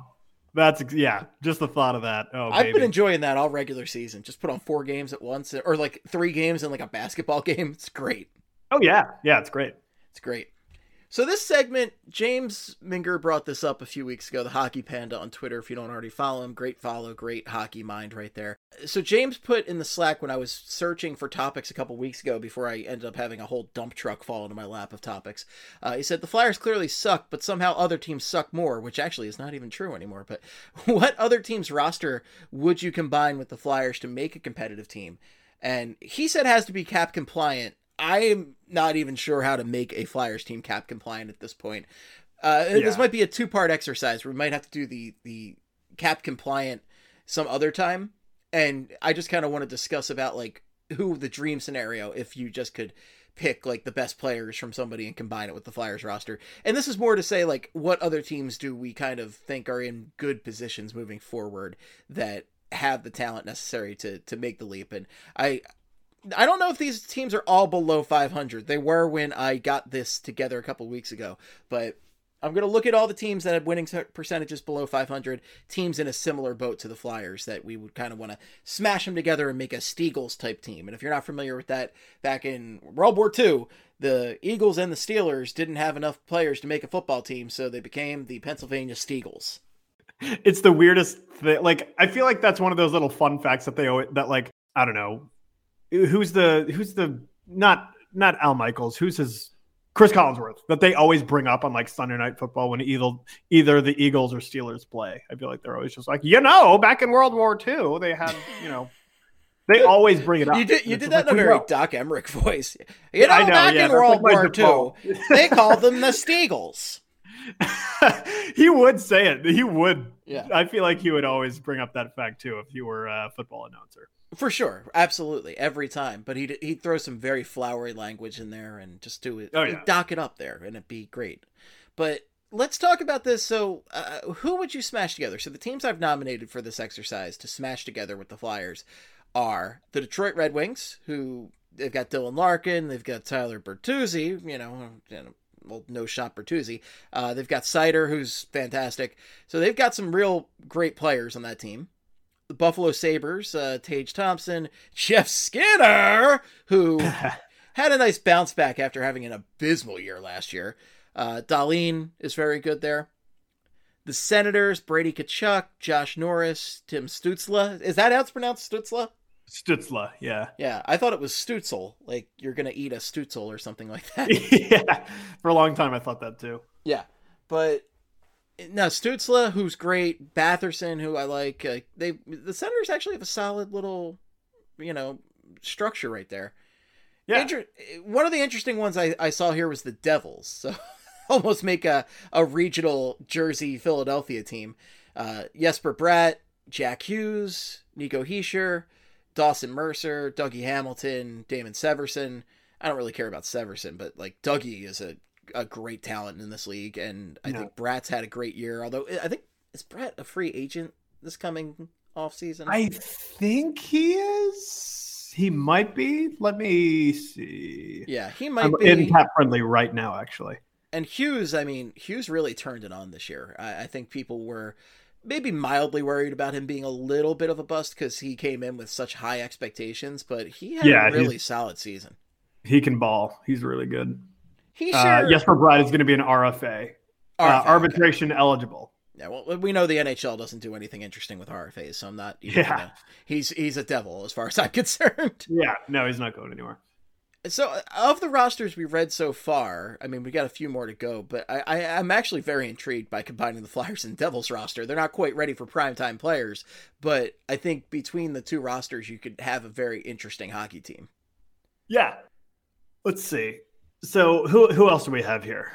C: just the thought of that. Oh,
B: I've been enjoying that all regular season. Just put on 4 games at once, or like 3 games in like a basketball game. It's great.
C: Oh, yeah. Yeah, it's great.
B: It's great. So this segment, James Minger brought this up a few weeks ago, the Hockey Panda on Twitter. If you don't already follow him, great follow, great hockey mind right there. So James put in the Slack when I was searching for topics a couple weeks ago before I ended up having a whole dump truck fall into my lap of topics. He said, the Flyers clearly suck, but somehow other teams suck more, which actually is not even true anymore. But what other team's roster would you combine with the Flyers to make a competitive team? And he said it has to be cap compliant. I'm not even sure how to make a Flyers team cap compliant at this point. This might be a 2-part exercise where we might have to do the cap compliant some other time. And I just kind of want to discuss about like who the dream scenario, if you just could pick like the best players from somebody and combine it with the Flyers roster. And this is more to say like what other teams do we kind of think are in good positions moving forward that have the talent necessary to make the leap. And I don't know if these teams are all below 500. They were when I got this together a couple weeks ago, but I'm going to look at all the teams that have winning percentages below 500, teams in a similar boat to the Flyers that we would kind of want to smash them together and make a Steagles type team. And if you're not familiar with that, back in World War II, the Eagles and the Steelers didn't have enough players to make a football team, so they became the Pennsylvania Steagles.
C: It's the weirdest thing. Like, I feel like that's one of those little fun facts that I don't know. Who's the not Al Michaels, who's his Chris Collinsworth that they always bring up on like Sunday Night Football when either the Eagles or Steelers play. I feel like they're always just like, back in World War II, they had, they always bring it up.
B: You did that in a very Doc Emmerich voice. Back in World War II, they called them the Steagles.
C: He would say it. He would.
B: Yeah.
C: I feel like he would always bring up that fact too if he were a football announcer.
B: For sure, absolutely, every time. But he'd throw some very flowery language in there and just do it, dock it up there, and it'd be great. But let's talk about this. So, who would you smash together? So the teams I've nominated for this exercise to smash together with the Flyers are the Detroit Red Wings, who they've got Dylan Larkin, they've got Tyler Bertuzzi, no shot Bertuzzi. They've got Seider, who's fantastic. So they've got some real great players on that team. The Buffalo Sabres, Tage Thompson, Jeff Skinner, who had a nice bounce back after having an abysmal year last year. Dahlin is very good there. The Senators, Brady Tkachuk, Josh Norris, Tim Stützle. Is that how it's pronounced, Stützle?
C: Stützle, yeah.
B: Yeah, I thought it was Stutzel, like you're going to eat a Stutzel or something like that.
C: Yeah, for a long time I thought that too.
B: Yeah, but... No, Stützle, who's great. Batherson, who I like. The Senators actually have a solid little, structure right there.
C: Yeah.
B: One of the interesting ones I saw here was the Devils. So almost make a regional Jersey Philadelphia team. Jesper Bratt, Jack Hughes, Nico Hischier, Dawson Mercer, Dougie Hamilton, Damon Severson. I don't really care about Severson, but like Dougie is a a great talent in this league, and I think Bratt's had a great year. Although I think, is Bratt a free agent this coming off season?
C: I think he is. He might be. Let me see.
B: Yeah, he might
C: be. In Cap Friendly right now, actually.
B: And Hughes, I mean, Hughes really turned it on this year. I think people were maybe mildly worried about him being a little bit of a bust because he came in with such high expectations, but he had a really solid season.
C: He can ball. He's really good. Jesper Bratt is going to be an RFA. Arbitration eligible.
B: Yeah, well, we know the NHL doesn't do anything interesting with RFAs, so I'm not even gonna, he's a devil as far as I'm concerned.
C: Yeah, no, he's not going anywhere.
B: So, of the rosters we've read so far, I mean, we got a few more to go, but I'm actually very intrigued by combining the Flyers and Devils roster. They're not quite ready for primetime players, but I think between the two rosters, you could have a very interesting hockey team.
C: Yeah. Let's see. So, who else do we have here?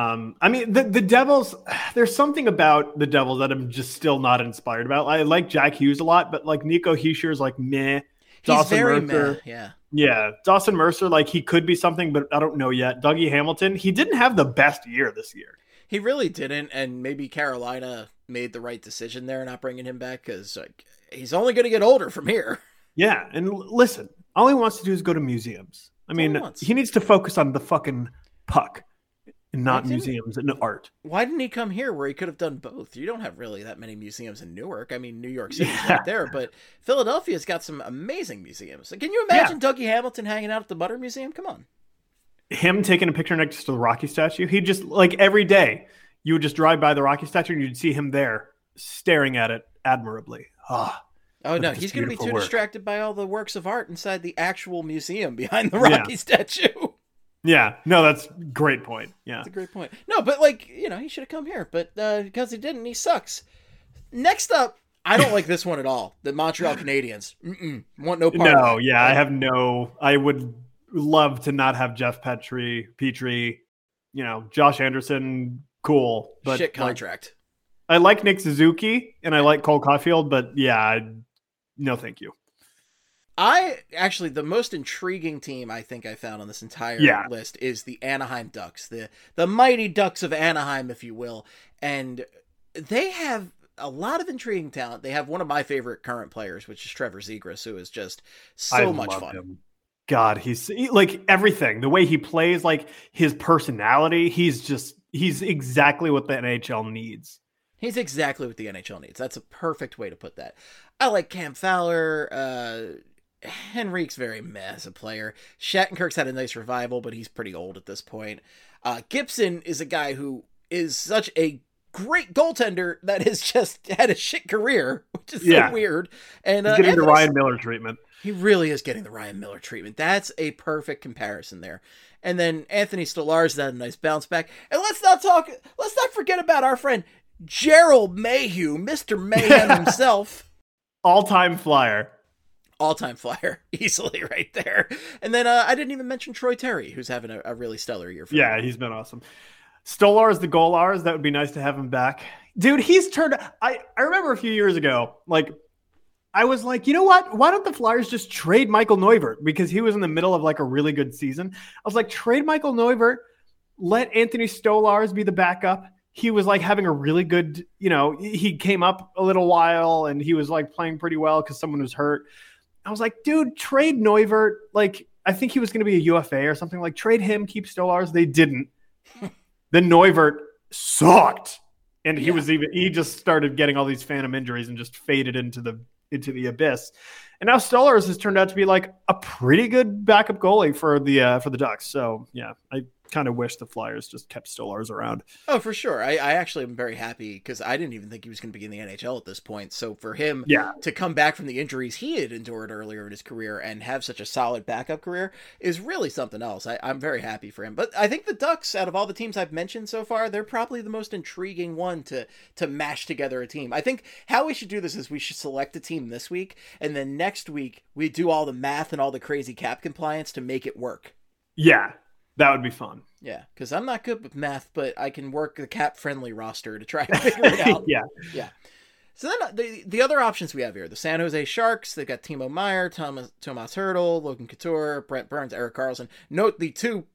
C: I mean, the Devils, there's something about the Devils that I'm just still not inspired about. I like Jack Hughes a lot, but like Nico Hischier is like meh.
B: He's very meh, yeah.
C: Yeah, Dawson Mercer, like he could be something, but I don't know yet. Dougie Hamilton, he didn't have the best year this year.
B: He really didn't, and maybe Carolina made the right decision there not bringing him back because like, he's only going to get older from here.
C: Yeah, and listen, all he wants to do is go to museums. I mean, he needs to focus on the fucking puck and not museums and art.
B: Why didn't he come here where he could have done both? You don't have really that many museums in Newark. I mean, New York City's right there, but Philadelphia's got some amazing museums. Can you imagine Dougie Hamilton hanging out at the Butter Museum? Come on.
C: Him taking a picture next to the Rocky statue. He just, like every day, you would just drive by the Rocky statue and you'd see him there staring at it admirably.
B: Oh, no, he's going to be too distracted by all the works of art inside the actual museum behind the Rocky statue.
C: Yeah, no, that's a great point. Yeah,
B: that's a great point. No, but like, you know, he should have come here, but because he didn't, he sucks. Next up, I don't like this one at all. The Montreal Canadiens. Want no part of it.
C: I would love to not have Jeff Petrie, you know, Josh Anderson, cool. But
B: shit contract.
C: I like Nick Suzuki and I like Cole Caulfield, but no, thank you.
B: The most intriguing team I think I found on this entire list is the Anaheim Ducks, the mighty Ducks of Anaheim, if you will. And they have a lot of intriguing talent. They have one of my favorite current players, which is Trevor Zegras, who is just so much fun.
C: Him. God, he's like everything, the way he plays, like his personality. He's exactly what the NHL needs.
B: He's exactly what the NHL needs. That's a perfect way to put that. I like Cam Fowler. Henrique's very meh as a player. Shattenkirk's had a nice revival, but he's pretty old at this point. Gibson is a guy who is such a great goaltender that has just had a shit career, which is so weird. And
C: he's getting the Ryan Miller treatment.
B: He really is getting the Ryan Miller treatment. That's a perfect comparison there. And then Anthony Stolarz had a nice bounce back. And let's not forget about our friend Gerald Mayhew, Mr. Mayhem himself.
C: All-time Flyer,
B: easily right there. And then I didn't even mention Troy Terry, who's having a really stellar year for him.
C: He's been awesome. Stolarz, the goalars, that would be nice to have him back. Dude, he's turned... I remember a few years ago, like, I was like, you know what? Why don't the Flyers just trade Michael Neuvirth? Because he was in the middle of, like, a really good season. I was like, trade Michael Neuvirth, let Anthony Stolarz be the backup. He was like having a really good, you know, he came up a little while and he was like playing pretty well because someone was hurt. I was like, dude, trade Neuvirth. Like, I think he was going to be a UFA or something. Like, trade him, keep Stolarz. They didn't. Then Neuvirth sucked. And he just started getting all these phantom injuries and just faded into the abyss. And now Stolarz has turned out to be like a pretty good backup goalie for the Ducks. So yeah, I kind of wish the Flyers just kept Stolarz around.
B: Oh, for sure. I actually am very happy because I didn't even think he was going to be in the NHL at this point. So for him to come back from the injuries he had endured earlier in his career and have such a solid backup career is really something else. I'm very happy for him. But I think the Ducks, out of all the teams I've mentioned so far, they're probably the most intriguing one to mash together a team. I think how we should do this is we should select a team this week, and then next week we do all the math and all the crazy cap compliance to make it work.
C: Yeah. That would be fun.
B: Yeah, because I'm not good with math, but I can work the cap-friendly roster to try to figure it out. Yeah. So then the other options we have here, the San Jose Sharks, they've got Timo Meier, Thomas Hertl, Logan Couture, Brent Burns, Erik Karlsson. Note the two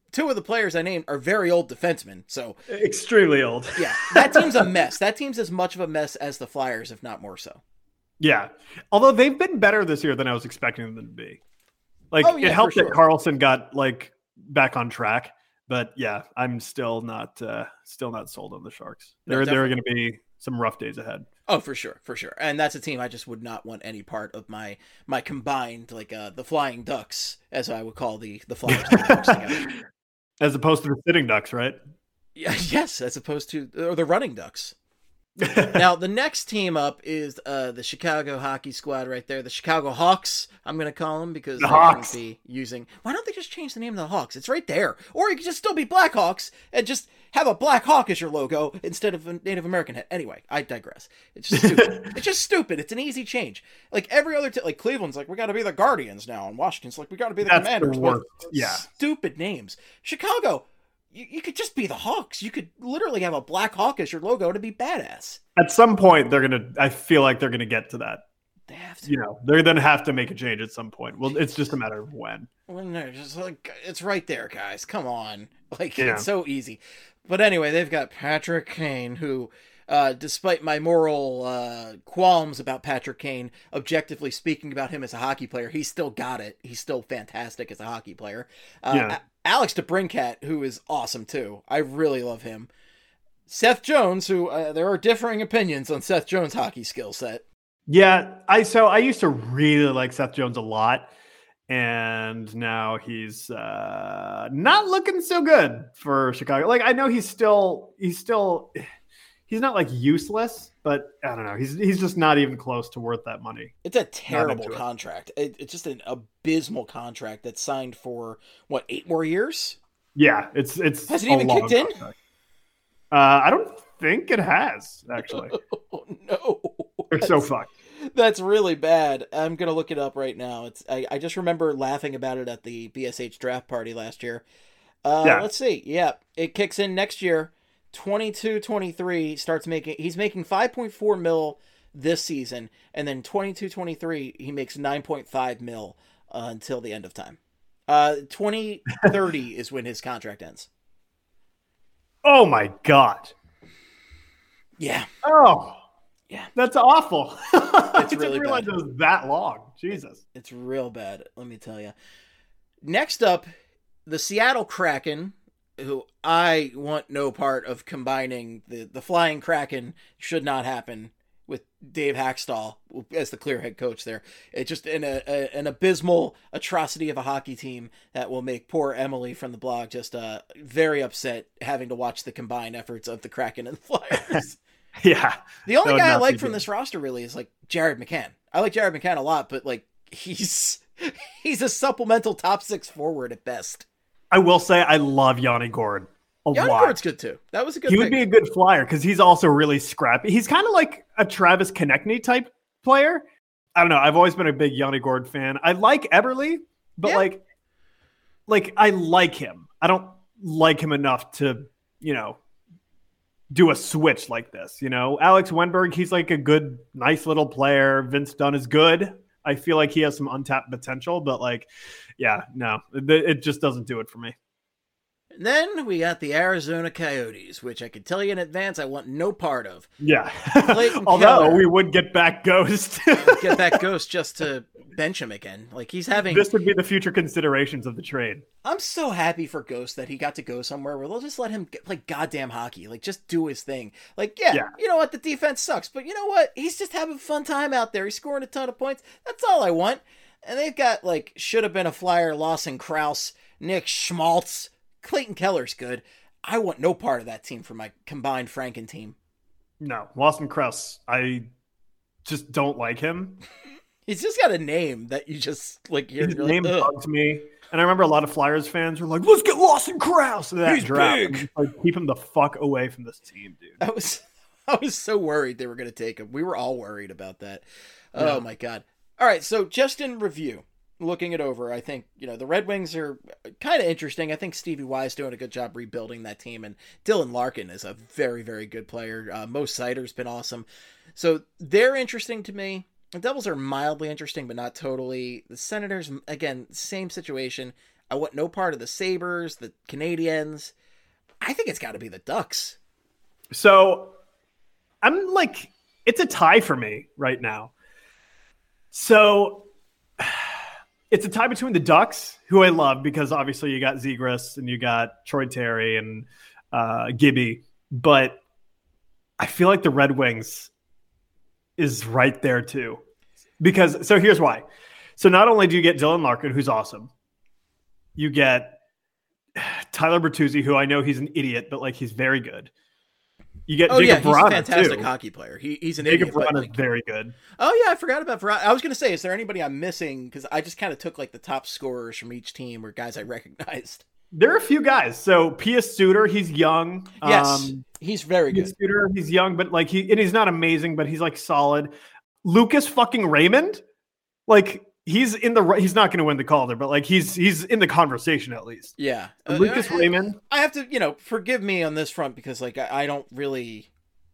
B: two of the players I named are very old defensemen. So
C: extremely old.
B: Yeah, that team's a mess. That team's as much of a mess as the Flyers, if not more so.
C: Yeah. Although they've been better this year than I was expecting them to be. Like, it helped that Carlson got like back on track, but yeah, I'm still not sold on the Sharks. There are going to be some rough days ahead.
B: Oh, for sure. And that's a team I just would not want any part of my combined, like the Flying Ducks, as I would call the Flyers. And the Ducks together.
C: As opposed to the Sitting Ducks, right?
B: Yeah, yes, as opposed to the Running Ducks. Now, the next team up is the Chicago hockey squad right there. The Chicago Hawks, I'm going to call them, because they shouldn't be using... Why don't they just change the name of the Hawks? It's right there. Or you could just still be Blackhawks and just have a Black Hawk as your logo instead of a Native American head. Anyway, I digress. It's just stupid. It's just stupid. It's an easy change. Like every other... like Cleveland's like, we got to be the Guardians now. And Washington's like, we got to be the Commanders.
C: Yeah.
B: Stupid names. Chicago... You could just be the Hawks. You could literally have a Black Hawk as your logo to be badass.
C: At some point, I feel like they're going to get to that.
B: They have to.
C: You know, they're going to have to make a change at some point. Well, it's just a matter of when.
B: Well, no, just like, it's right there, guys. Come on. Like, It's so easy. But anyway, they've got Patrick Kane, who, despite my moral qualms about Patrick Kane, objectively speaking about him as a hockey player, he's still got it. He's still fantastic as a hockey player. Alex DeBrincat, who is awesome too. I really love him. Seth Jones, who there are differing opinions on Seth Jones' hockey skill set.
C: Yeah, I used to really like Seth Jones a lot, and now he's not looking so good for Chicago. Like, I know he's not like useless, but I don't know. He's just not even close to worth that money.
B: It's a terrible contract. It's just an abysmal contract that's signed for 8 more years?
C: Yeah, it's
B: has it even kicked in?
C: I don't think it has, actually.
B: Oh, no.
C: They're so fucked.
B: That's really bad. I'm gonna look it up right now. I just remember laughing about it at the BSH draft party last year. Let's see. Yeah, it kicks in next year. 22-23 he's making 5.4 mil this season, and then 22-23 he makes 9.5 mil until the end of time. 2030 is when his contract ends.
C: Oh my god.
B: Yeah.
C: Oh
B: yeah,
C: that's awful.
B: It's really
C: I didn't realize
B: bad.
C: it was that long. Jesus,
B: it's real bad, let me tell you. Next up, the Seattle Kraken, who I want no part of combining. The Flying Kraken should not happen with Dave Hackstall as the clear head coach there. It's just an abysmal atrocity of a hockey team that will make poor Emily from the blog just very upset having to watch the combined efforts of the Kraken and the Flyers.
C: Yeah.
B: The only guy I like from this roster really is like Jared McCann. I like Jared McCann a lot, but like he's a supplemental top 6 forward at best.
C: I will say I love Yanni Gourde a lot.
B: Yanni Gourde's good too. That was a good pick.
C: He would be a good flyer because he's also really scrappy. He's kind of like a Travis Konechny type player. I don't know. I've always been a big Yanni Gourde fan. I like Eberle, but like I like him. I don't like him enough to, do a switch like this. Alex Wenberg, he's like a good, nice little player. Vince Dunn is good. I feel like he has some untapped potential, but it just doesn't do it for me.
B: And then we got the Arizona Coyotes, which I can tell you in advance I want no part of.
C: Yeah. Although we would get back Ghost.
B: Get back Ghost just to bench him again. Like he's having...
C: This would be the future considerations of the trade.
B: I'm so happy for Ghost that he got to go somewhere where they'll just let him play goddamn hockey. Like just do his thing. Like, yeah, you know what? The defense sucks, but you know what? He's just having a fun time out there. He's scoring a ton of points. That's all I want. And they've got should have been a Flyer, Lawson Krause, Nick Schmaltz, Clayton Keller's good. I want no part of that team for my combined Franken team.
C: No, Lawson Krause, I just don't like him.
B: He's just got a name that you just
C: his name bugs me. And I remember a lot of Flyers fans were like, let's get Lawson Krause. He's big. Keep him the fuck away from this team, dude.
B: I was so worried they were going to take him. We were all worried about that. Yeah. Oh my God. All right. So just in review, looking it over, I think, the Red Wings are kind of interesting. I think Stevie Y is doing a good job rebuilding that team, and Dylan Larkin is a very, very good player. Mo Seider's been awesome. So they're interesting to me. The Devils are mildly interesting, but not totally. The Senators, again, same situation. I want no part of the Sabres, the Canadiens. I think it's got to be the Ducks.
C: So I'm like, it's a tie for me right now. So it's a tie between the Ducks, who I love because obviously you got Zegras and you got Troy Terry and Gibby, but I feel like the Red Wings is right there too. Because, so here's why. So not only do you get Dylan Larkin, who's awesome, you get Tyler Bertuzzi, who I know he's an idiot, but like he's very good. You get Jacob Vrana,
B: he's a fantastic
C: too.
B: hockey player. He's an
C: Jacob
B: idiot.
C: Vrana is very good.
B: Oh yeah, I forgot about Vrana. I was going to say, is there anybody I'm missing? Because I just kind of took like the top scorers from each team or guys I recognized.
C: There are a few guys. So Pius Suter, he's young.
B: Yes, he's very good.
C: Suter, he's young, but like he's not amazing, but he's like solid. Lucas fucking Raymond, like he's not going to win the Calder, but like he's in the conversation at least.
B: Yeah,
C: Lucas Raymond.
B: I have to, forgive me on this front because like I don't really.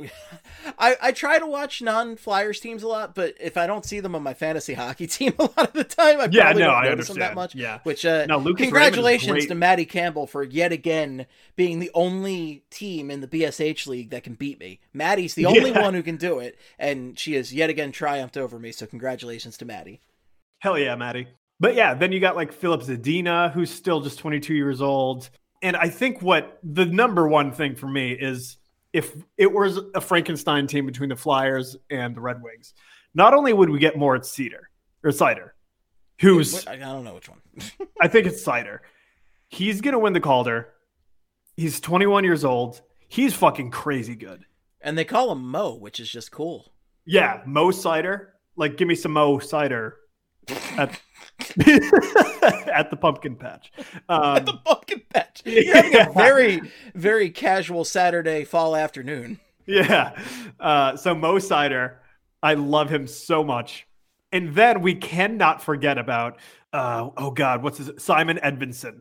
B: I try to watch non-Flyers teams a lot, but if I don't see them on my fantasy hockey team a lot of the time, I probably don't notice them that much.
C: Yeah.
B: Which
C: Lucas
B: congratulations to Maddie Campbell for yet again being the only team in the BSH league that can beat me. Maddie's the only one who can do it, and she has yet again triumphed over me. So congratulations to Maddie.
C: Hell yeah, Maddie. But yeah, then you got like Philip Zadina, who's still just 22 years old. And I think what the number one thing for me is, if it was a Frankenstein team between the Flyers and the Red Wings, not only would we get Moritz Seider, who's...
B: I don't know which one.
C: I think it's Seider. He's going to win the Calder. He's 21 years old. He's fucking crazy good.
B: And they call him Mo, which is just cool.
C: Yeah, Mo Seider. Like, give me some Mo Seider at the pumpkin patch.
B: At the pumpkin patch. You're having a very, very casual Saturday fall afternoon.
C: Yeah. So Mo Seider, I love him so much. And then we cannot forget about, Simon Edvinsson.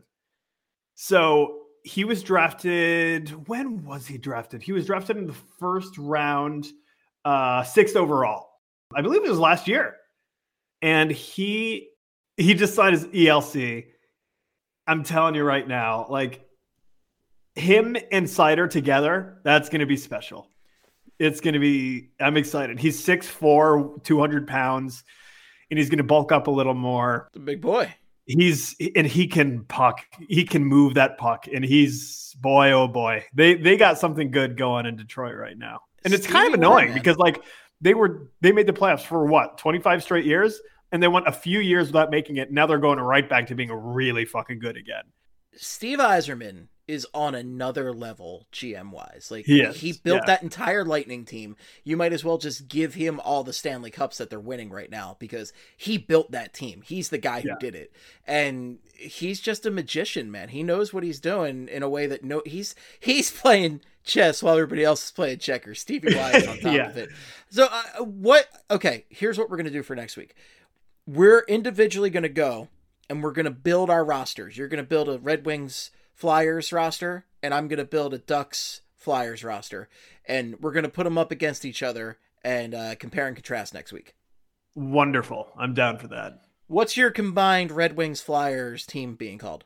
C: So he was drafted. When was he drafted? He was drafted in the first round, 6th overall. I believe it was last year. And he just signed his ELC. I'm telling you right now, like him and Seider together, that's going to be special. It's going to be, I'm excited. He's 6'4", 200 pounds, and he's going to bulk up a little more.
B: The big boy.
C: He can puck. He can move that puck. And boy, oh boy, they got something good going in Detroit right now. And it's kind of annoying because like they made the playoffs for what, 25 straight years? And they went a few years without making it. Now they're going right back to being really fucking good again.
B: Steve Yzerman is on another level GM-wise. Like he built that entire Lightning team. You might as well just give him all the Stanley Cups that they're winning right now because he built that team. He's the guy who did it. And he's just a magician, man. He knows what he's doing in a way that he's playing chess while everybody else is playing checkers. Stevie Y is on top of it. So here's what we're going to do for next week. We're individually going to go and we're going to build our rosters. You're going to build a Red Wings Flyers roster, and I'm going to build a Ducks Flyers roster. And we're going to put them up against each other and compare and contrast next week.
C: Wonderful. I'm down for that.
B: What's your combined Red Wings Flyers team being called?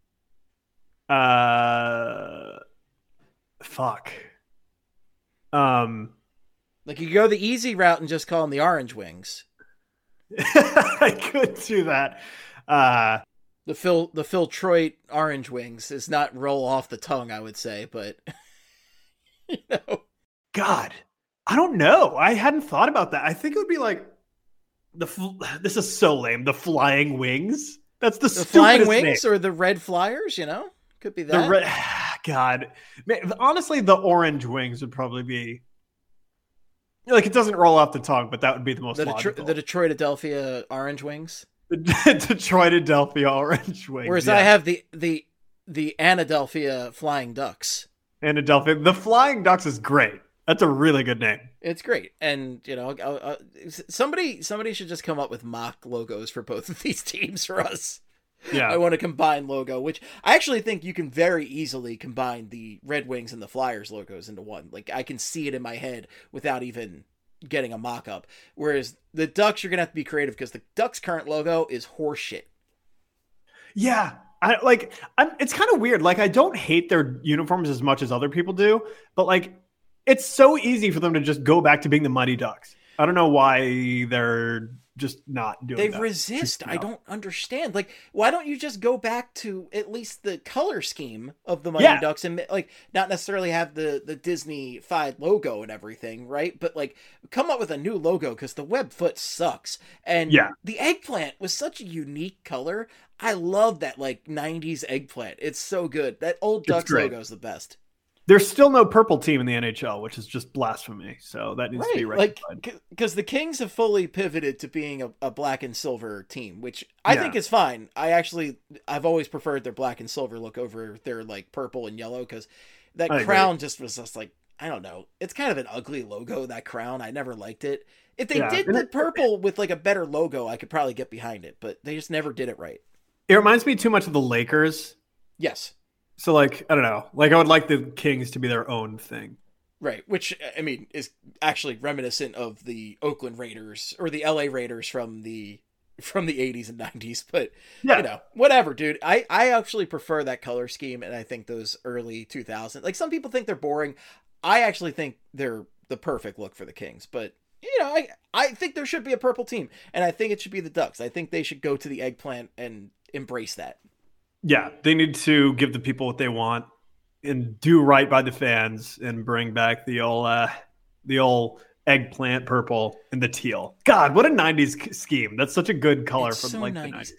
C: Fuck.
B: Like you go the easy route and just call them the Orange Wings.
C: I could do that.
B: The Phil Troy Orange Wings does not roll off the tongue, I would say, but
C: God, I don't know. I hadn't thought about that. I think it would be like this is so lame. The Flying Wings. That's the
B: Flying Wings
C: name.
B: Or the Red Flyers. Could be that.
C: God, man, honestly, the Orange Wings would probably be. Like it doesn't roll off the tongue, but that would be the most logical.
B: The Detroit-Adelphia Orange Wings.
C: The Detroit-Adelphia Orange Wings.
B: Whereas I have the Anadelphia Flying Ducks.
C: Anadelphia. The Flying Ducks is great. That's a really good name.
B: It's great. And, somebody should just come up with mock logos for both of these teams for us. Yeah. I want a combined logo, which I actually think you can very easily combine the Red Wings and the Flyers logos into one. Like I can see it in my head without even getting a mock-up. Whereas the Ducks, you're going to have to be creative because the Ducks' current logo is horseshit.
C: Yeah. It's kind of weird. Like, I don't hate their uniforms as much as other people do, but like, it's so easy for them to just go back to being the Mighty Ducks. I don't know why they're just not doing that.
B: They resist. I don't understand. Like, why don't you just go back to at least the color scheme of the Mighty Ducks and like not necessarily have the Disney-fied logo and everything, right? But like come up with a new logo because the web foot sucks. And the eggplant was such a unique color. I love that like 90s eggplant. It's so good. That old Ducks logo is the best.
C: There's still no purple team in the NHL, which is just blasphemy. So that needs to be rectified.
B: Because the Kings have fully pivoted to being a black and silver team, which I think is fine. I've always preferred their black and silver look over their like purple and yellow because that crown just was just like, I don't know. It's kind of an ugly logo, that crown. I never liked it. If they did the purple with like a better logo, I could probably get behind it, but they just never did it right.
C: It reminds me too much of the Lakers.
B: Yes.
C: So, like, I don't know. Like, I would like the Kings to be their own thing.
B: Right, which, I mean, is actually reminiscent of the Oakland Raiders or the LA Raiders from the 80s and 90s. But, you know, whatever, dude. I actually prefer that color scheme, and I think those early 2000s. Like, some people think they're boring. I actually think they're the perfect look for the Kings. But, you know, I think there should be a purple team, and I think it should be the Ducks. I think they should go to the eggplant and embrace that.
C: Yeah, they need to give the people what they want and do right by the fans and bring back the old eggplant purple and the teal. God, what a 90s scheme. That's such a good color from like 90s.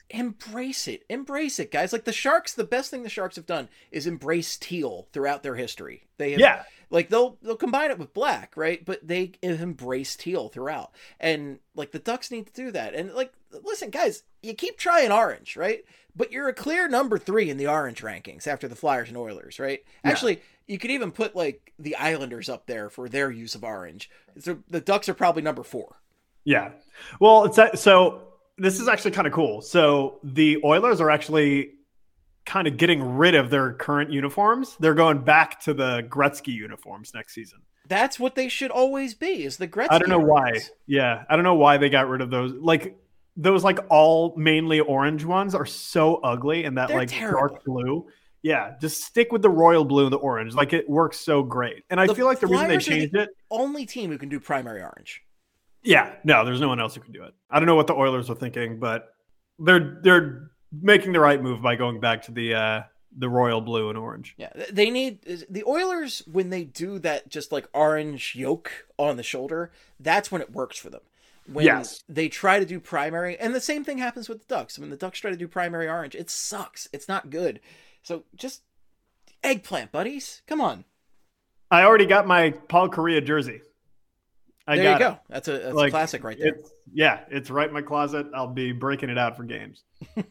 B: Embrace it, guys. Like the Sharks, the best thing the Sharks have done is embrace teal throughout their history. They have, like they'll combine it with black, right? But they embrace teal throughout. And like the Ducks need to do that. And like, listen, guys, you keep trying orange, right? But you're a clear number 3 in the orange rankings after the Flyers and Oilers, right? Yeah. Actually, you could even put like the Islanders up there for their use of orange. So the Ducks are probably number 4.
C: Yeah. Well, so this is actually kind of cool. So the Oilers are actually kind of getting rid of their current uniforms. They're going back to the Gretzky uniforms next season.
B: That's what they should always be, is the Gretzky.
C: I don't know why. Yeah. I don't know why they got rid of those. Like, those like all mainly orange ones are so ugly, and that
B: They're
C: like
B: terrible.
C: Dark blue. Yeah, just stick with the royal blue and the orange. Like it works so great. And I feel like the reason they changed it,
B: only team who can do primary orange.
C: Yeah, no, there's no one else who can do it. I don't know what the Oilers are thinking, but they're making the right move by going back to the royal blue and orange.
B: Yeah, they need the Oilers when they do that just like orange yoke on the shoulder. That's when it works for them. When they try to do primary, and the same thing happens with the Ducks. When the Ducks try to do primary orange, it sucks. It's not good. So just eggplant, buddies. Come on.
C: I already got my Paul Correa jersey.
B: There you go. That's a classic right there.
C: It's right in my closet. I'll be breaking it out for games.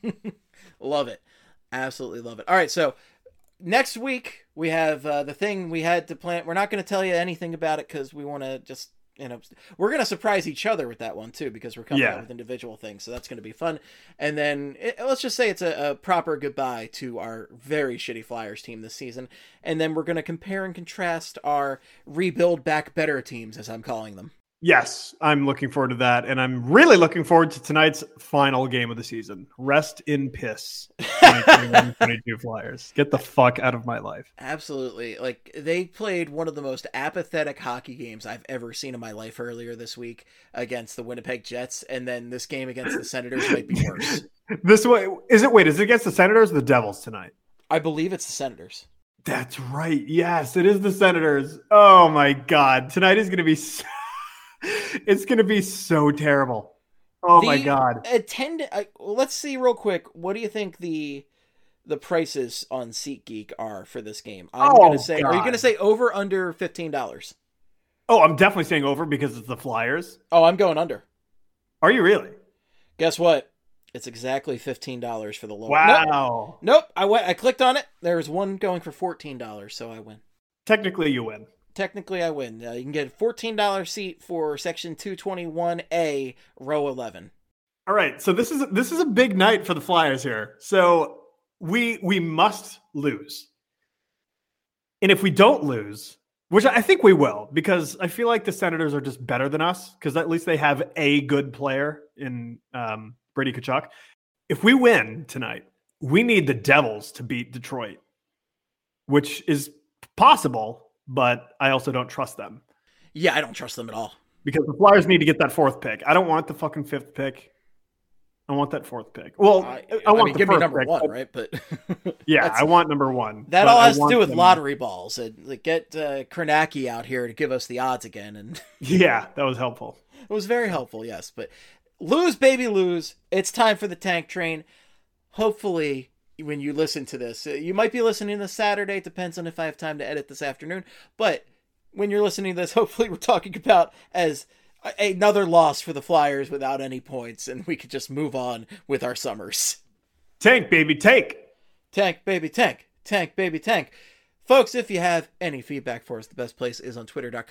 B: Love it. Absolutely love it. All right, so next week we have the thing we had to plan. We're not going to tell you anything about it because we want to just, we're going to surprise each other with that one too, because we're coming out with individual things. So that's going to be fun. And then let's just say it's a proper goodbye to our very shitty Flyers team this season. And then we're going to compare and contrast our rebuild back better teams, as I'm calling them.
C: Yes, I'm looking forward to that. And I'm really looking forward to tonight's final game of the season. Rest in piss. 2021-22 Flyers. Get the fuck out of my life.
B: Absolutely. Like, they played one of the most apathetic hockey games I've ever seen in my life earlier this week against the Winnipeg Jets. And then this game against the Senators might be worse.
C: Is it against the Senators or the Devils tonight?
B: I believe it's the Senators.
C: That's right. Yes, it is the Senators. Oh my God. Tonight is going to be it's going to be so terrible. Oh my God.
B: Let's see real quick. What do you think the prices on SeatGeek are for this game? I'm going to say, are you going to say over, under $15?
C: Oh, I'm definitely saying over because it's the Flyers.
B: Oh, I'm going under.
C: Are you really?
B: Guess what? It's exactly $15 for the lower.
C: Wow.
B: Nope. I clicked on it. There's one going for $14, so I win.
C: Technically, you win.
B: Technically, I win. You can get a $14 seat for section 221A, row 11.
C: All right, so this is a big night for the Flyers here. So we must lose, and if we don't lose, which I think we will, because I feel like the Senators are just better than us, because at least they have a good player in Brady Tkachuk. If we win tonight, we need the Devils to beat Detroit, which is possible, but I also don't trust them.
B: Yeah, I don't trust them at all.
C: Because the Flyers need to get that 4th pick. I don't want the fucking 5th pick. I want that 4th pick. Well, I want
B: give me number
C: pick,
B: 1, right? But
C: yeah, I want number 1.
B: That all has to do with lottery balls. And like, get Kornacki out here to give us the odds again. And
C: yeah, that was helpful.
B: It was very helpful, yes. But lose, baby, lose. It's time for the tank train. Hopefully, when you listen to this, you might be listening this Saturday. It depends on if I have time to edit this afternoon. But when you're listening to this, hopefully we're talking about as another loss for the Flyers without any points, and we could just move on with our summers.
C: Tank, baby, tank.
B: Tank, baby, tank. Tank, baby, tank. Folks, if you have any feedback for us, the best place is on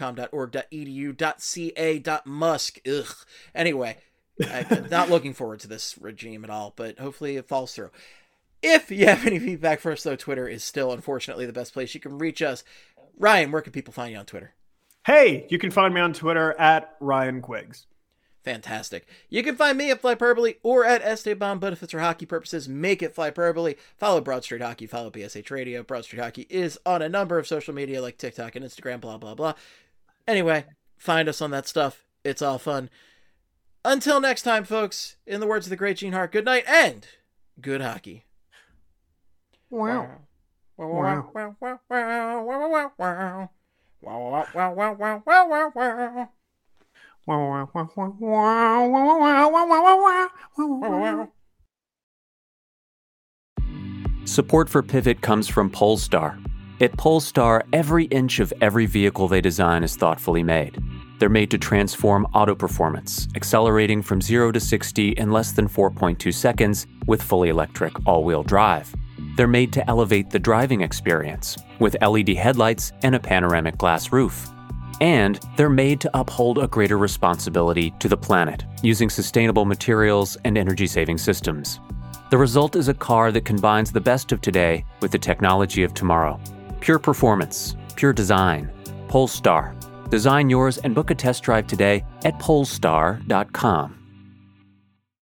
B: twitter.com.org.edu.ca.musk. Ugh. Anyway, I'm not looking forward to this regime at all, but hopefully it falls through. If you have any feedback for us, though, Twitter is still, unfortunately, the best place you can reach us. Ryan, where can people find you on Twitter?
C: Hey, you can find me on Twitter at Ryan Quiggs.
B: Fantastic. You can find me at Flyperbole or at Esteban, but if it's for hockey purposes, make it Flyperbole. Follow Broad Street Hockey, follow BSH Radio. Broad Street Hockey is on a number of social media like TikTok and Instagram, blah, blah, blah. Anyway, find us on that stuff. It's all fun. Until next time, folks, in the words of the great Gene Hart, good night and good hockey.
C: Wow.
B: Wow. Wow. Wow. Wow. Wow. Wow. Wow. Wow, wow, wow, wow, wow, wow.
F: Support for Pivot comes from Polestar. At Polestar, every inch of every vehicle they design is thoughtfully made. They're made to transform auto performance, accelerating from 0 to 60 in less than 4.2 seconds with fully electric all-wheel drive. They're made to elevate the driving experience with LED headlights and a panoramic glass roof. And they're made to uphold a greater responsibility to the planet using sustainable materials and energy-saving systems. The result is a car that combines the best of today with the technology of tomorrow. Pure performance, pure design. Polestar. Design yours and book a test drive today at polestar.com.